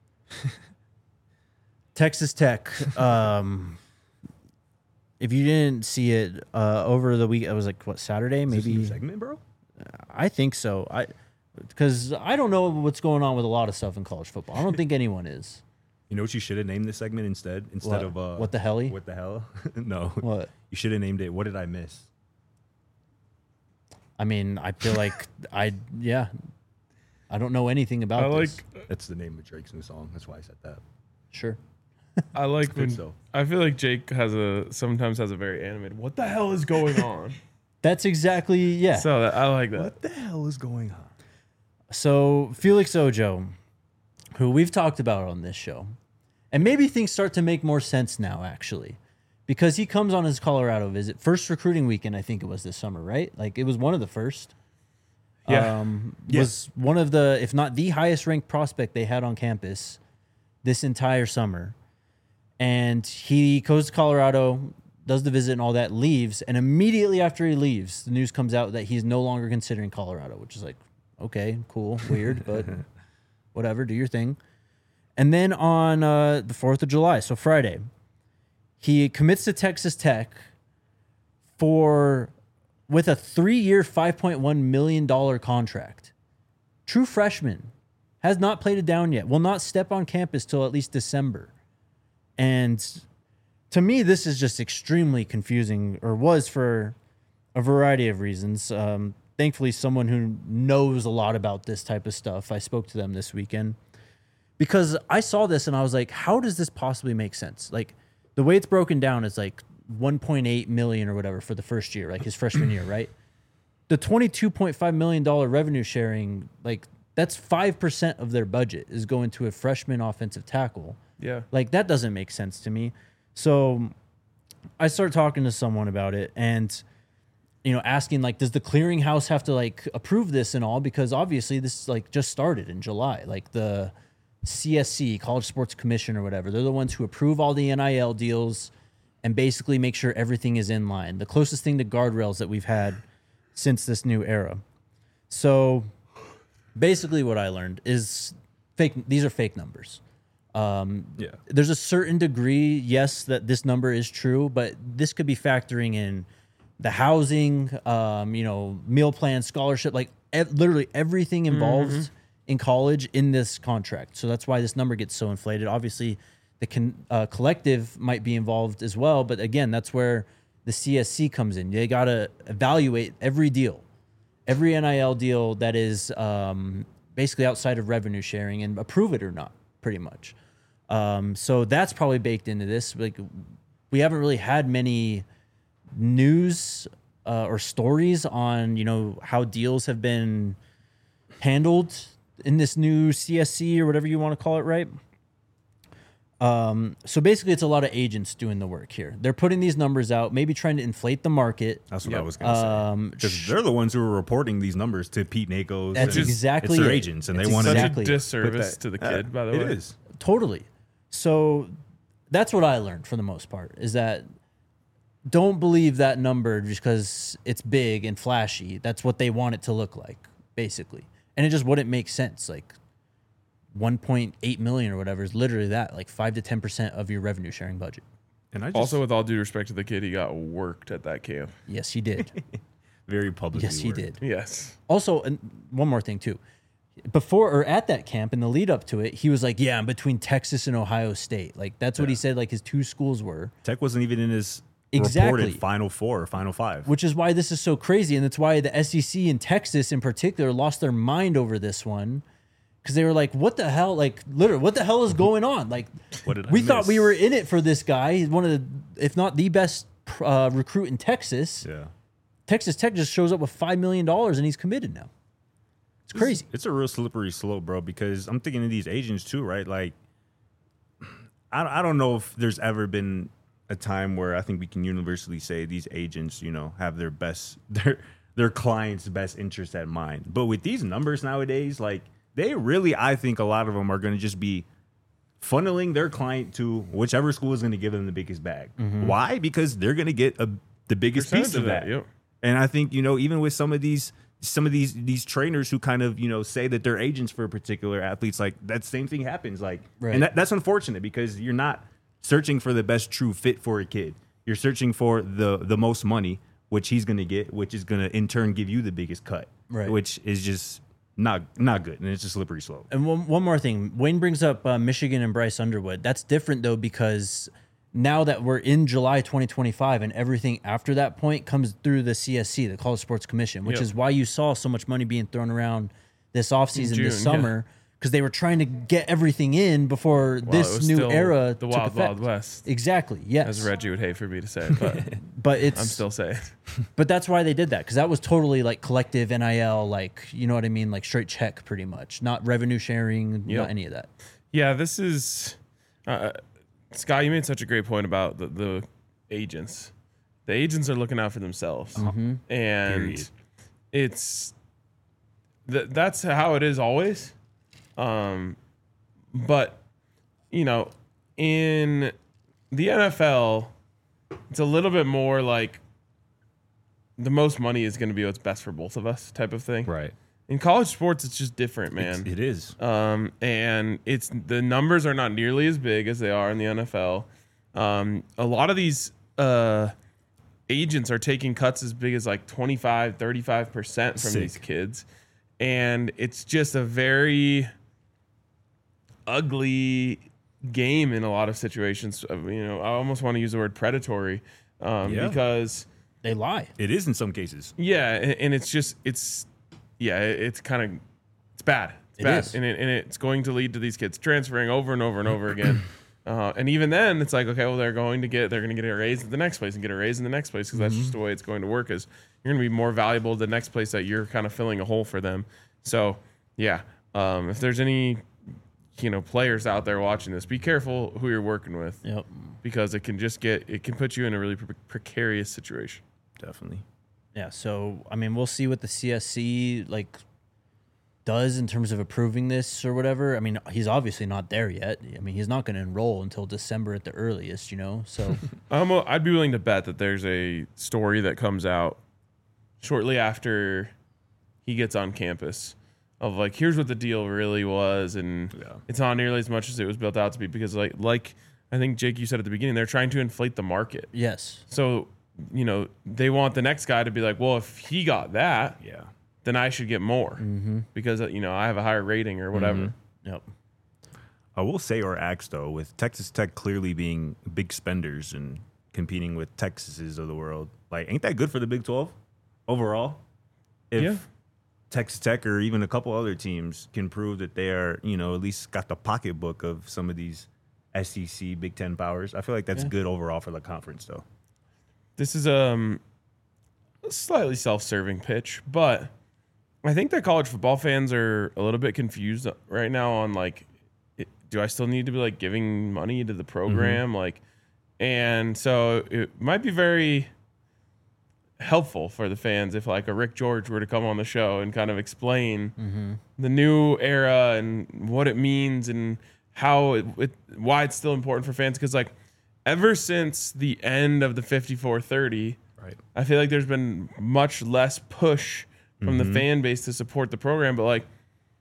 Texas Tech. Um, if you didn't see it uh, over the week, it was like what Saturday, Is this a new maybe. segment, bro? I think so. I because I don't know what's going on with a lot of stuff in college football. I don't think anyone is. You know what you should have named this segment instead? Instead What? of uh, What the helly? What the hell? No. What? You should have named it What Did I Miss? I mean, I feel like I yeah. I don't know anything about I like this. That's the name of Drake's new song. That's why I said that. Sure. I like Good when stuff. I feel like Jake has a sometimes has a very animated. What the hell is going on? That's exactly yeah. So, So that, I like that. What the hell is going on? Felix Ojo, who we've talked about on this show, and maybe things start to make more sense now, actually, because he comes on his Colorado visit, first recruiting weekend, I think it was this summer, right? Like it was one of the first. Yeah. Um, Yeah. Was one of the, if not the highest ranked prospect they had on campus this entire summer. And he goes to Colorado, does the visit and all that, leaves. And immediately after he leaves, the news comes out that he's no longer considering Colorado, which is like, okay, cool, weird, but whatever, do your thing. And then on uh, the fourth of July, so Friday, he commits to Texas Tech for with a three-year, five point one million dollars contract. True freshman, has not played it down yet, will not step on campus till at least December. And to me, this is just extremely confusing, or was for a variety of reasons. Um, thankfully, someone who knows a lot about this type of stuff, I spoke to them this weekend. Because I saw this and I was like, how does this possibly make sense? Like, the way it's broken down is like one point eight million dollars or whatever for the first year, like his freshman year, right? The twenty-two point five million dollars revenue sharing, like, that's five percent of their budget is going to a freshman offensive tackle. Yeah. Like, that doesn't make sense to me. So I started talking to someone about it and, you know, asking, like, does the clearinghouse have to, like, approve this and all? Because obviously this, like, just started in July. Like, the C S C, College Sports Commission or whatever, they're the ones who approve all the N I L deals and basically make sure everything is in line. The closest thing to guardrails that we've had since this new era. So basically what I learned is fake. These are fake numbers. Um, Yeah. There's a certain degree, yes, that this number is true, but this could be factoring in the housing, um, you know, meal plan, scholarship, like ev- literally everything involved Mm-hmm. in college in this contract. So that's why this number gets so inflated. Obviously, the con- uh, collective might be involved as well, but again, that's where the C S C comes in. They got to evaluate every deal, every N I L deal that is um, basically outside of revenue sharing and approve it or not, pretty much. Um, so that's probably baked into this. Like, we haven't really had many news uh, or stories on, you know, how deals have been handled in this new C S C or whatever you want to call it, right? Um, so basically, it's a lot of agents doing the work here. They're putting these numbers out, maybe trying to inflate the market. That's what Yep. I was going to Um, say. Because they're the ones who are reporting these numbers to Pete Nakos. That's and exactly It's their it. agents, and It's they want Such to. exactly. a disservice But to the that- kid, by the It way. is. Totally. So that's what I learned for the most part, is that don't believe that number just because it's big and flashy. That's what they want it to look like. basically. And it just wouldn't make sense. Like one point eight million or whatever is literally that, like five to ten percent of your revenue sharing budget. And I just, Also, with all due respect to the kid, he got worked at that camp. Yes, he did. very publicly. Yes, he worked. did. Yes. Also, and one more thing too. Before or at that camp, in the lead up to it, he was like, "Yeah, I'm between Texas and Ohio State." Like that's what he said. Like his two schools were. Tech wasn't even in his Exactly. reported Final Four or Final Five. Which is why this is so crazy, and that's why the S E C and Texas in particular lost their mind over this one, because they were like, "What the hell? Like, literally, what the hell is going on?" Like, What did I we miss? thought we were in it for this guy. He's one of the, if not the best uh, recruit in Texas. Yeah. Texas Tech just shows up with five million dollars, and he's committed now. It's crazy. It's a real slippery slope, bro, because I'm thinking of these agents too, right? Like, I, I don't know if there's ever been a time where I think we can universally say these agents, you know, have their best, their their clients' best interest at mind. But with these numbers nowadays, like, they really, I think a lot of them are going to just be funneling their client to whichever school is going to give them the biggest bag. Mm-hmm. Why? Because they're going to get a, the biggest piece of that. Yep. And I think, you know, even with some of these some of these these trainers who kind of, you know, say that they're agents for particular athletes, like that same thing happens. Like, Right. and that, that's unfortunate because you're not searching for the best true fit for a kid. You're searching for the the most money, which he's going to get, which is going to in turn give you the biggest cut, Right. which is just not not good. And it's a slippery slope. And one, one more thing. Wayne brings up uh, Michigan and Bryce Underwood. That's different, though, because now that we're in July twenty twenty-five and everything after that point comes through the C S C, the College Sports Commission, which Yep. is why you saw so much money being thrown around this offseason, June, this yeah. summer, because they were trying to get everything in before Well, it this was new still era the took Wild effect. Wild West, Exactly, yes. as Reggie would hate for me to say, but But it's I'm still saying. But that's why they did that, because that was totally like collective N I L, like, you know what I mean, like straight check, pretty much, not revenue sharing, Yep. not any of that. Yeah, this is uh, Scott. You made such a great point about the, the agents. The agents are looking out for themselves, and Period. it's th- that's how it is always. Um, but you know, in the N F L, it's a little bit more like the most money is going to be what's best for both of us, type of thing. Right. In college sports, it's just different, man. It is. Um, and it's the numbers are not nearly as big as they are in the N F L. Um, a lot of these uh, agents are taking cuts as big as like twenty-five, thirty-five percent from Sick. these kids. And it's just a very ugly game in a lot of situations. Uh, You know, I almost want to use the word predatory um, Yeah. because, They lie. It is in some cases. yeah, and, and it's just, it's, yeah, it- it's kind of, it's bad. It's It bad. is. And, it, and it's going to lead to these kids transferring over and over and over again. Uh, and even then, it's like, okay, well, they're going to get, they're going to get a raise at the next place and get a raise in the next place because that's just the way it's going to work. Is you're going to be more valuable the next place that you're kind of filling a hole for them. So, yeah, um, if there's any, you know, players out there watching this, be careful who you're working with Yep. because it can just get, it can put you in a really pre- precarious situation. Definitely. Yeah, so I mean, we'll see what the C S C like does in terms of approving this or whatever. I mean, he's obviously not there yet. I mean, he's not going to enroll until December at the earliest, you know. So Um, I'd be willing to bet that there's a story that comes out shortly after he gets on campus of like, here's what the deal really was, and Yeah. it's not nearly as much as it was built out to be because, like, like I think Jake, you said at the beginning, they're trying to inflate the market. yes, So you know they want the next guy to be like, well, if he got that, Yeah. then I should get more Mm-hmm. because uh, you know I have a higher rating or whatever. yep. I will say or axe though, with Texas Tech clearly being big spenders and competing with Texas's of the world, like ain't that good for the Big twelve overall? If Yeah. Texas Tech or even a couple other teams can prove that they are, you know, at least got the pocketbook of some of these S E C Big Ten powers, I feel like that's Yeah. good overall for the conference though. This is um, a slightly self-serving pitch, but I think that college football fans are a little bit confused right now on like, it, do I still need to be like giving money to the program? Mm-hmm. Like, and so it might be very helpful for the fans if like a Rick George were to come on the show and kind of explain Mm-hmm. the new era and what it means and how it, it why it's still important for fans. Because like ever since the end of the fifty-four thirty, Right. I feel like there's been much less push from Mm-hmm. the fan base to support the program. But like,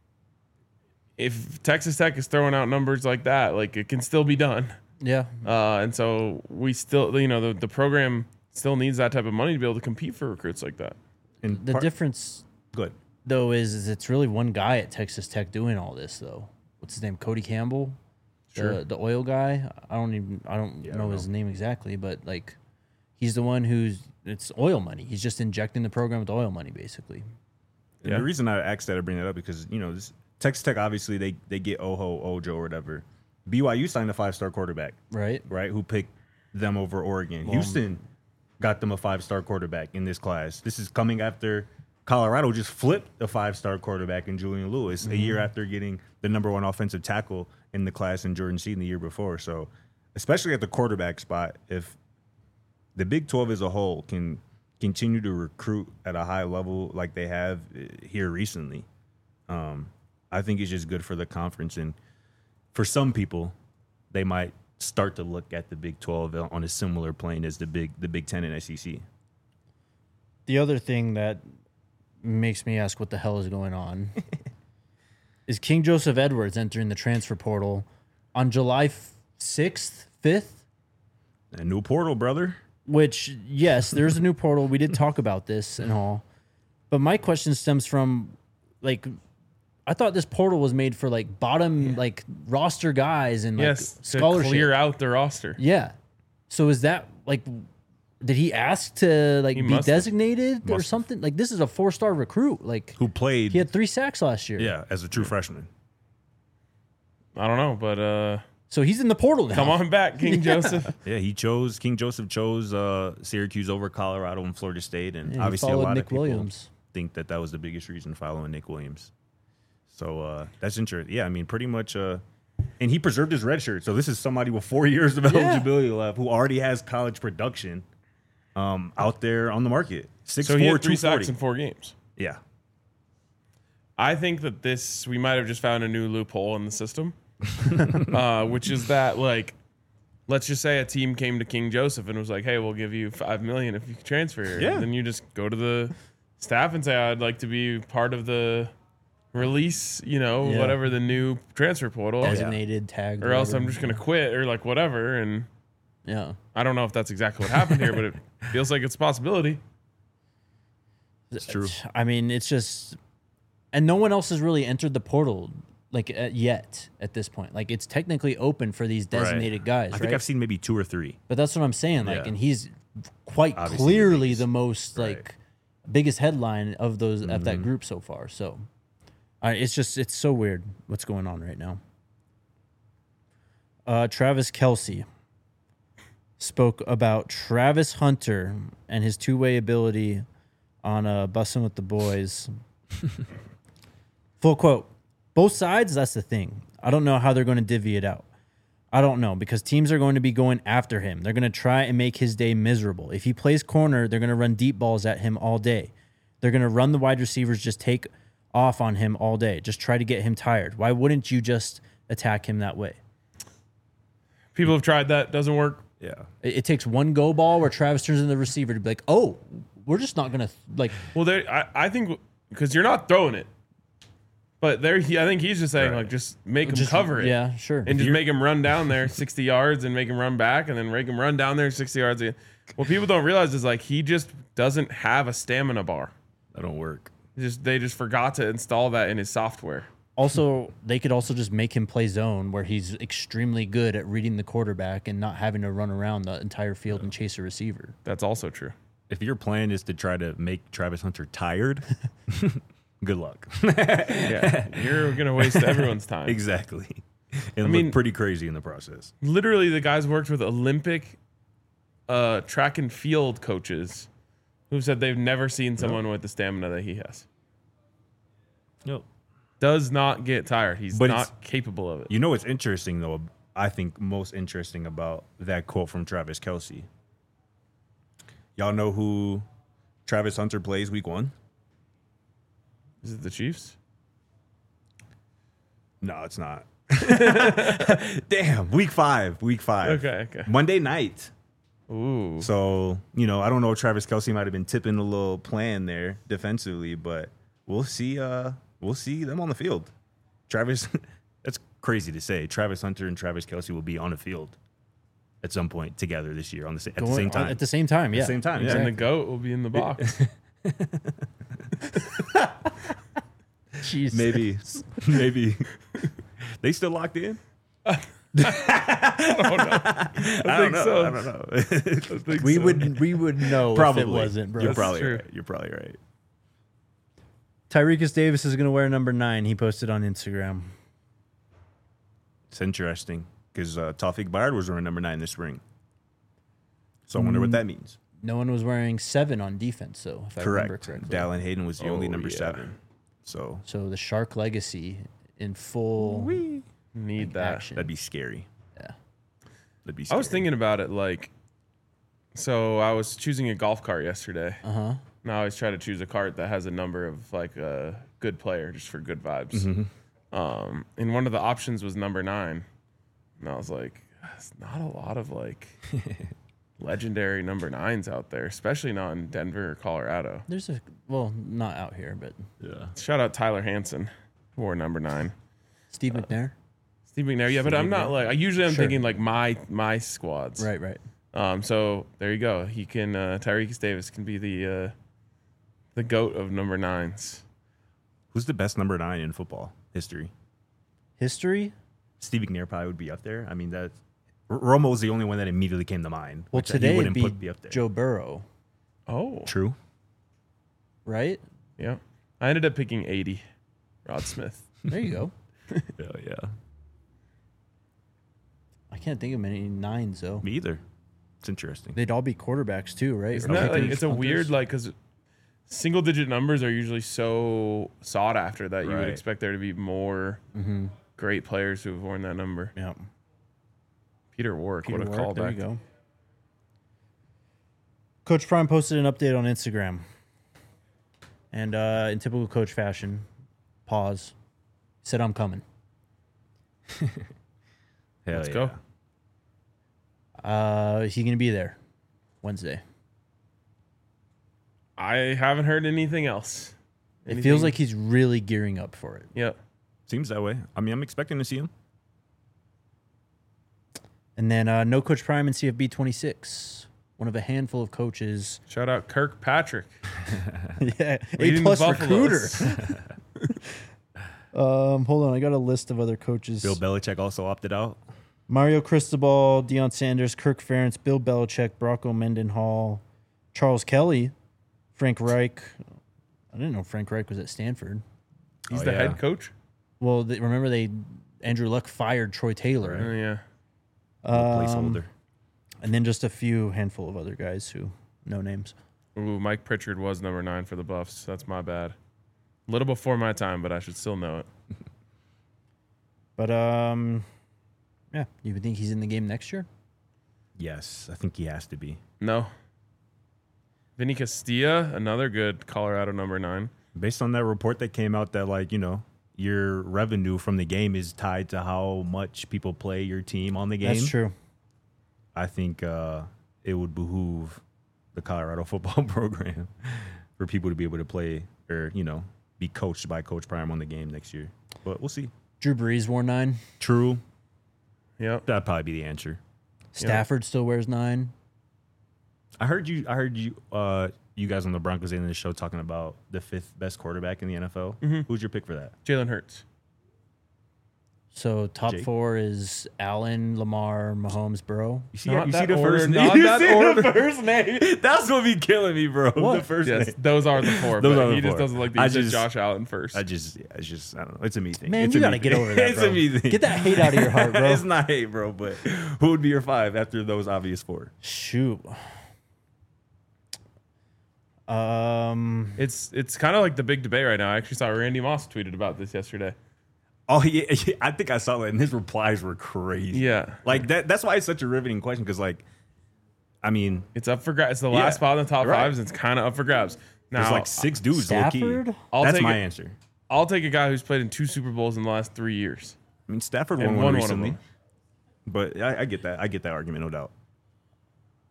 if Texas Tech is throwing out numbers like that, like it can still be done. Yeah. Uh, and so we still, you know, the, the program still needs that type of money to be able to compete for recruits like that. And The part- difference, Good. though, is, is it's really one guy at Texas Tech doing all this, though. What's his name? Cody Campbell? Sure. The, the oil guy? I don't even, I don't Yeah, I know don't his know. name exactly, but like, he's the one who's, it's oil money. He's just injecting the program with oil money, basically. And Yeah. the reason I asked that to bring that up because you know this Texas Tech obviously they they get Oho Ojo or whatever. B Y U signed a five star quarterback, Right? right? Who picked them over Oregon? Houston got them a five star quarterback in this class. This is coming after Colorado just flipped a five star quarterback in Julian Lewis a year after getting the number one offensive tackle in the class in Jordan Seaton the year before. So, especially at the quarterback spot, if the Big twelve as a whole can continue to recruit at a high level like they have uh, here recently, um, I think it's just good for the conference. And for some people, they might start to look at the Big twelve on a similar plane as the Big the Big Ten and S E C. The other thing that makes me ask what the hell is going on is King Joseph Edwards entering the transfer portal on July sixth, fifth, A new portal, brother. which, yes, there's a new portal. We did talk about this and all. But my question stems from, like, I thought this portal was made for, like, bottom, like, roster guys and, like, Yes, to scholarship. clear out the roster. Yeah. So is that, like, did he ask to, like, He be must have. designated or Must have. something? Like, this is a four-star recruit. Like, Who played he had three sacks last year. yeah, as a true freshman. I don't know, but uh, So he's in the portal now. come on back, King Joseph. Yeah, he chose King Joseph chose uh, Syracuse over Colorado and Florida State, and Yeah, he obviously a followed lot Nick of people Williams. think that that was the biggest reason following Nick Williams. So uh, that's interesting. Yeah, I mean, pretty much. Uh, and he preserved his red shirt, so this is somebody with four years of Yeah. eligibility left who already has college production um, out there on the market. Six So he four, had three two forty. sacks in four games. Yeah, I think that this we might have just found a new loophole in the system, uh, which is that like, let's just say a team came to King Joseph and was like, "Hey, we'll give you five million if you transfer here." Yeah. And then you just go to the staff and say, "I'd like to be part of the release," you know, Yeah. whatever the new transfer portal, Designated, tagged. or else I'm whatever. just gonna quit or like whatever. And Yeah. I don't know if that's exactly what happened here, but it feels like it's a possibility. It's true. I mean, it's just, and no one else has really entered the portal like uh, yet at this point. Like it's technically open for these designated guys, I right? think I've seen maybe two or three. But that's what I'm saying. Like, Yeah. and he's quite Obviously the clearly biggest. the most Right. like biggest headline of those of Mm-hmm. that group so far. So, I it's just it's so weird what's going on right now. Uh, Travis Kelce spoke about Travis Hunter and his two-way ability on uh, Bussin' with the Boys. Full quote. Both sides, that's the thing. I don't know how they're going to divvy it out. I don't know because teams are going to be going after him. They're going to try and make his day miserable. If he plays corner, they're going to run deep balls at him all day. They're going to run the wide receivers, just take off on him all day. Just try to get him tired. Why wouldn't you just attack him that way? People have tried that, doesn't work. Yeah. It, it takes one go ball where Travis turns into the receiver to be like, oh, we're just not going to like. Well, there, I, I think because you're not throwing it, but there, he, I think he's just saying Right. like just make him Just, cover it, Yeah, sure. and just make him run down there sixty yards and make him run back, and then make him run down there sixty yards again. What people don't realize is like he just doesn't have a stamina bar. That don't work. Just they just forgot to install that in his software. Also, they could also just make him play zone where he's extremely good at reading the quarterback and not having to run around the entire field and chase a receiver. That's also true. If your plan is to try to make Travis Hunter tired, good luck. Yeah, you're gonna waste everyone's time. Exactly. And I mean- look pretty crazy in the process. Literally, the guys worked with Olympic uh, track and field coaches who said they've never seen someone with the stamina that he has. Yep. Does not get tired. He's But it's- not capable of it. You know what's interesting though? I think most interesting about that quote from Travis Kelce. Y'all know who Travis Hunter plays week one? Is it the Chiefs? No, it's not. Damn, week five. Week five. Okay, okay. Monday night. Ooh. So, you know, I don't know if Travis Kelce might have been tipping a little plan there defensively, but we'll see. Uh, we'll see them on the field. Travis, that's crazy to say. Travis Hunter and Travis Kelce will be on the field at some point together this year on the sa- at the Going same on- time. At the same time, yeah. At the same time, yeah. And the goat will be in the box. Jeez. Maybe, maybe they still locked in. I don't know. I, think know. so. I don't know. I think We so. would we would know Probably if it wasn't, bro. You're That's probably true. right. You're probably right. Tyreek Davis is going to wear number nine. He posted on Instagram. It's interesting because uh, Tawfiq Bayard was wearing number nine this spring. So I wonder what that means. No one was wearing seven on defense, though, if I remember Correct. correctly. Dallin Hayden was the only Oh, number yeah. seven. So So the Shark legacy in full Need that. action. that'd be scary. Yeah. That'd be I scary. was thinking about it like, so I was choosing a golf cart yesterday. Uh huh. And I always try to choose a cart that has a number of like a good player just for good vibes. Um, and one of the options was number nine. And I was like, there's not a lot of like legendary number nines out there, especially not in Denver or Colorado. There's a well, not out here, but Yeah. Shout out Tyler Hansen, who wore number nine. Steve McNair. Steve McNair, yeah, but Steve I'm not McNair. like I usually I'm Sure. thinking like my my squads. Right, right. Um, so there you go. He can uh, Tyreek Davis can be the uh, the goat of number nines. Who's the best number nine in football history? History. Steve McNair probably would be up there. I mean, that R- Romo was the only one that immediately came to mind. Well, which he today it'd wouldn't be put be up there. Joe Burrow, Oh, True. right? yeah. I ended up picking eighty. Rod Smith. There you go. Yeah, yeah. I can't think of many nines though. Me either. It's interesting. They'd all be quarterbacks too, right? Isn't Or that like, kickers, it's a punters. weird like because single digit numbers are usually so sought after that you would Right. expect there to be more Mm-hmm. great players who have worn that number. Yeah. Peter Warwick, Peter what a Warwick, there you callback. go. Coach Prime posted an update on Instagram. And uh, in typical coach fashion, pause. Said, I'm coming. Hell Let's yeah. go. Uh, is he going to be there Wednesday? I haven't heard anything else. It feels Anything- like he's really gearing up for it. Yep. Seems that way. I mean, I'm expecting to see him. And then uh, no Coach Prime in C F B twenty-six. One of a handful of coaches. Shout out Kirkpatrick. yeah, Leading A the plus recruiter. Buffaloes. um, hold on, I got a list of other coaches. Bill Belichick also opted out. Mario Cristobal, Deion Sanders, Kirk Ferentz, Bill Belichick, Bronco Mendenhall, Charles Kelly, Frank Reich. I didn't know Frank Reich was at Stanford. He's Oh, the yeah. head coach. Well, they, remember they Andrew Luck fired Troy Taylor, Oh yeah. Um, Placeholder. and then just a few handful of other guys who no names. Ooh, Mike Pritchard was number nine for the Buffs. That's my bad. A little before my time, but I should still know it. But um, yeah, you would think he's in the game next year? Yes, I think he has to be. No. Vinny Castilla, another good Colorado number nine. Based on that report that came out that, like, you know, your revenue from the game is tied to how much people play your team on the game. That's true. I think uh, it would behoove the Colorado football program for people to be able to play or, you know, be coached by Coach Prime on the game next year. But we'll see. Drew Brees wore nine. True. Yep. That'd probably be the answer. Stafford still wears nine. I heard you. I heard you. Uh, you guys on the Broncos in the show talking about the fifth best quarterback in the N F L. Mm-hmm. Who's your pick for that? Jalen Hurts. So top Jake? four is Allen, Lamar, Mahomes, Burrow. You see, Not you that see the order, first not name. You that see order. the first name. That's gonna be killing me, bro. What? The first Yes, name. those are the four. Those but are the he just four. doesn't like the I you said just- Josh Allen first. I just, yeah, it's just, I don't know. It's a me thing. Man, it's you a gotta me get thing. over that, It's bro. a me thing. Get that hate out of your heart, bro. It's not hate, bro. But who would be your five after those obvious four? Shoot. Um, It's it's kind of like the big debate right now. I actually saw Randy Moss tweeted about this yesterday. Oh yeah, yeah, I think I saw that, and his replies were crazy. Yeah, like that. That's why it's such a riveting question because, like, I mean, it's up for grabs. It's the Yeah, last spot in the top right. fives. And it's kind of up for grabs. there's Now, like six dudes. Low key. Stafford? I'll That's take my it. answer. I'll take a guy who's played in two Super Bowls in the last three years. I mean, Stafford And won one won one of recently, them. but I, I get that. I get that argument, no doubt.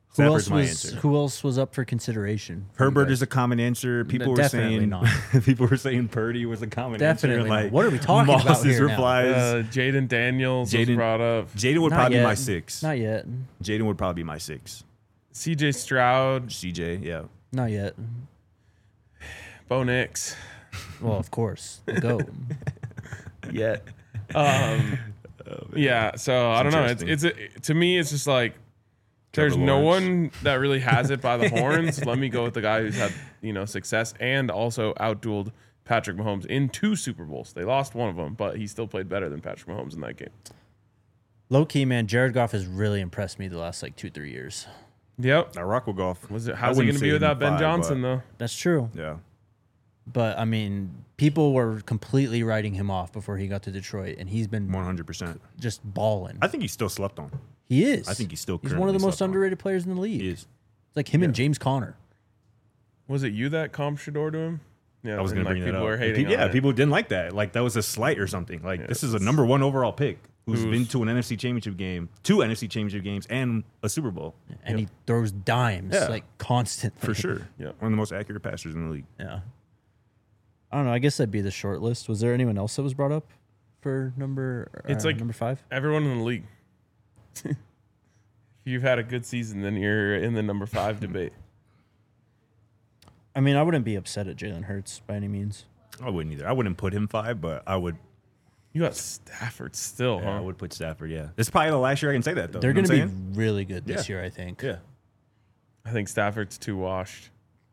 Who Stafford's else my was answer. Who else was up for consideration? for you Herbert guys? is a common answer. People were definitely saying not. people were saying Purdy was a common Definitely answer. not. Like What are we talking about Moss's here now? replies. Uh, Jaden Daniels was Jaden- brought up. Jaden would Not probably yet. be my six. Not yet. Jaden would probably be my six. C J Stroud, C J, yeah. Not yet. Bo Nix. Well, of course. Go. Yet. Um, yeah. So I don't know. It's, interesting. it's a, to me, it's just like Trevor there's no Lawrence. one that really has it by the horns. Let me go with the guy who's had you know success and also outdueled Patrick Mahomes in two Super Bowls. They lost one of them, but he still played better than Patrick Mahomes in that game. Low key, man. Jared Goff has really impressed me the last like two, three years. Yep. I rock with golf. Was it? I How's he wouldn't going to be say without even Ben five, Johnson but- though? That's true. Yeah. But I mean, people were completely writing him off before he got to Detroit, and he's been one hundred percent. just balling. I think he's still slept on. He is. I think he's still He's one of the currently most slept on. underrated players in the league. He is. It's like him and James Conner. Was it you that comped Shador to him? Yeah, I was and, going to like, bring that people up. were And hating pe- yeah, on it. people didn't like that. Like that was a slight or something. Like this is a number one overall pick who's Who's- been to an N F C Championship game, two N F C Championship games, and a Super Bowl And he throws dimes Yeah. like constantly. for sure. Yeah. One of the most accurate passers in the league. Yeah. I don't know. I guess that'd be the short list. Was there anyone else that was brought up for number? It's uh, like- number five. Everyone in the league. If you've had a good season, then you're in the number five debate. I mean, I wouldn't be upset at Jalen Hurts by any means. I wouldn't either. I wouldn't put him five, but I would. You got Stafford still, Yeah, I huh? would put Stafford. Yeah, this is probably the last year I can say that though. They're You know going to what be I'm really good this Yeah. year, I think. saying? Yeah. I think Stafford's too washed.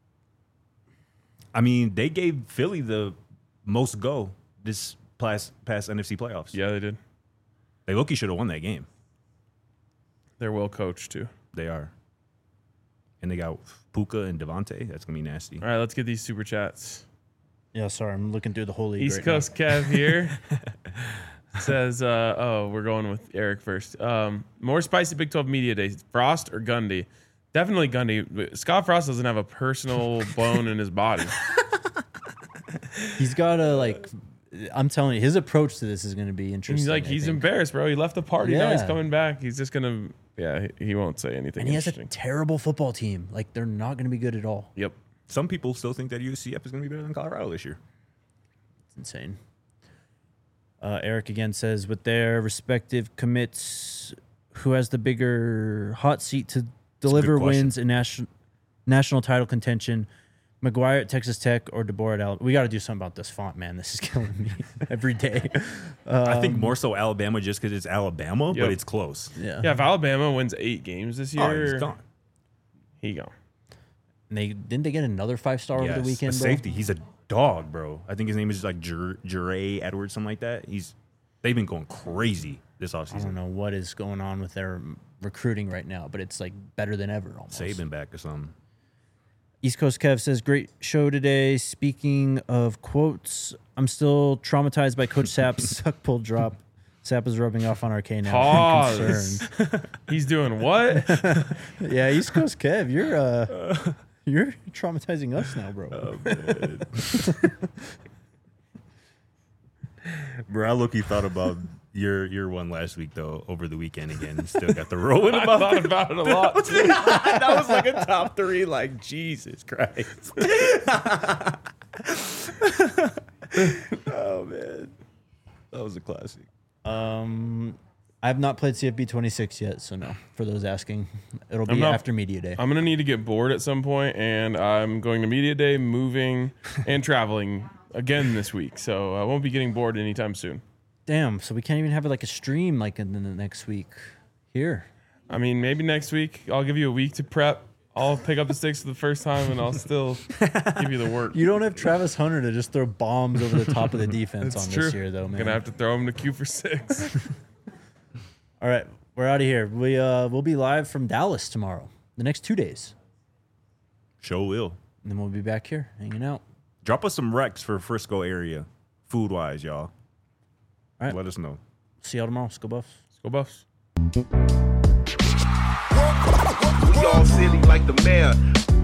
I mean, they gave Philly the most go this past past N F C playoffs. Yeah, they did. They low-key should have won that game. They're well coached too. They are. And they got Puka and Devontae. That's gonna be nasty. All right, let's get these super chats. Yeah, sorry. I'm looking through the whole league. East right Coast Kev here says, uh, "Oh, we're going with Eric first. Um, more spicy Big twelve media days: Frost or Gundy? Definitely Gundy. Scott Frost doesn't have a personal bone in his body. now. He's got to, like, I'm telling you, his approach to this is going to be interesting. He's like I he's think. embarrassed, bro. He left the party. Now he's Yeah. coming back. He's just gonna, yeah. He, he won't say anything And he has a interesting. terrible football team. Like, they're not going to be good at all. Yep. Some people still think that U C F is gonna be better than Colorado this year. It's insane. Uh, Eric again says, with their respective commits, who has the bigger hot seat to deliver question. wins in national national title contention? McGuire at Texas Tech or DeBoer at Alabama? We got to do something about this font, man. This is killing me every day. I Um, think more so Alabama just because it's Alabama, Yep. but it's close. Yeah. Yeah. If Alabama wins eight games this Oh, year, he's gone. he gone. And they didn't they get another five star over Yes, the weekend, a bro? safety. He's a dog, bro. I think his name is like Jure Jure Edwards, something like that. He's they've been going crazy this I don't offseason. know what is going on with their recruiting right now, but it's like better than ever almost. Saban back or something. East Coast Kev says, great show today. Speaking of quotes, I'm still traumatized by Coach Sapp's suck pull drop. Sapp is rubbing off on R K now. I'm Pause. concerned. He's doing what? Yeah, East Coast Kev, you're uh, you're traumatizing us now, bro. Bro, I look, thought about your your one last week though over the weekend again. Still got the rolling I about thought about it a lot. Too. that was like a top three. Like Jesus Christ. Oh man, that was a classic. Um, I have not played C F B twenty-six yet, so no. For those asking, it'll I'm be not- after media day. I'm gonna need to get bored at some point, and I'm going to media day, moving, and traveling again this week. So I won't be getting bored anytime soon. Damn, so we can't even have like a stream like in the next week here. I mean, maybe next week I'll give you a week to prep. I'll pick up the sticks for the first time, and I'll still give you the work. You don't have Travis Hunter to just throw bombs over the top of the defense That's on true. this year, though, man. Gonna have to throw him to Q for six. All right, we're out of here. We uh we'll be live from Dallas tomorrow, the next two days, Show will. and then we'll be back here hanging out. Drop us some recs for Frisco area, food wise, y'all. All right. Let us know. See y'all tomorrow. Let's go Buffs. Let's go Buffs. We all silly like the mayor.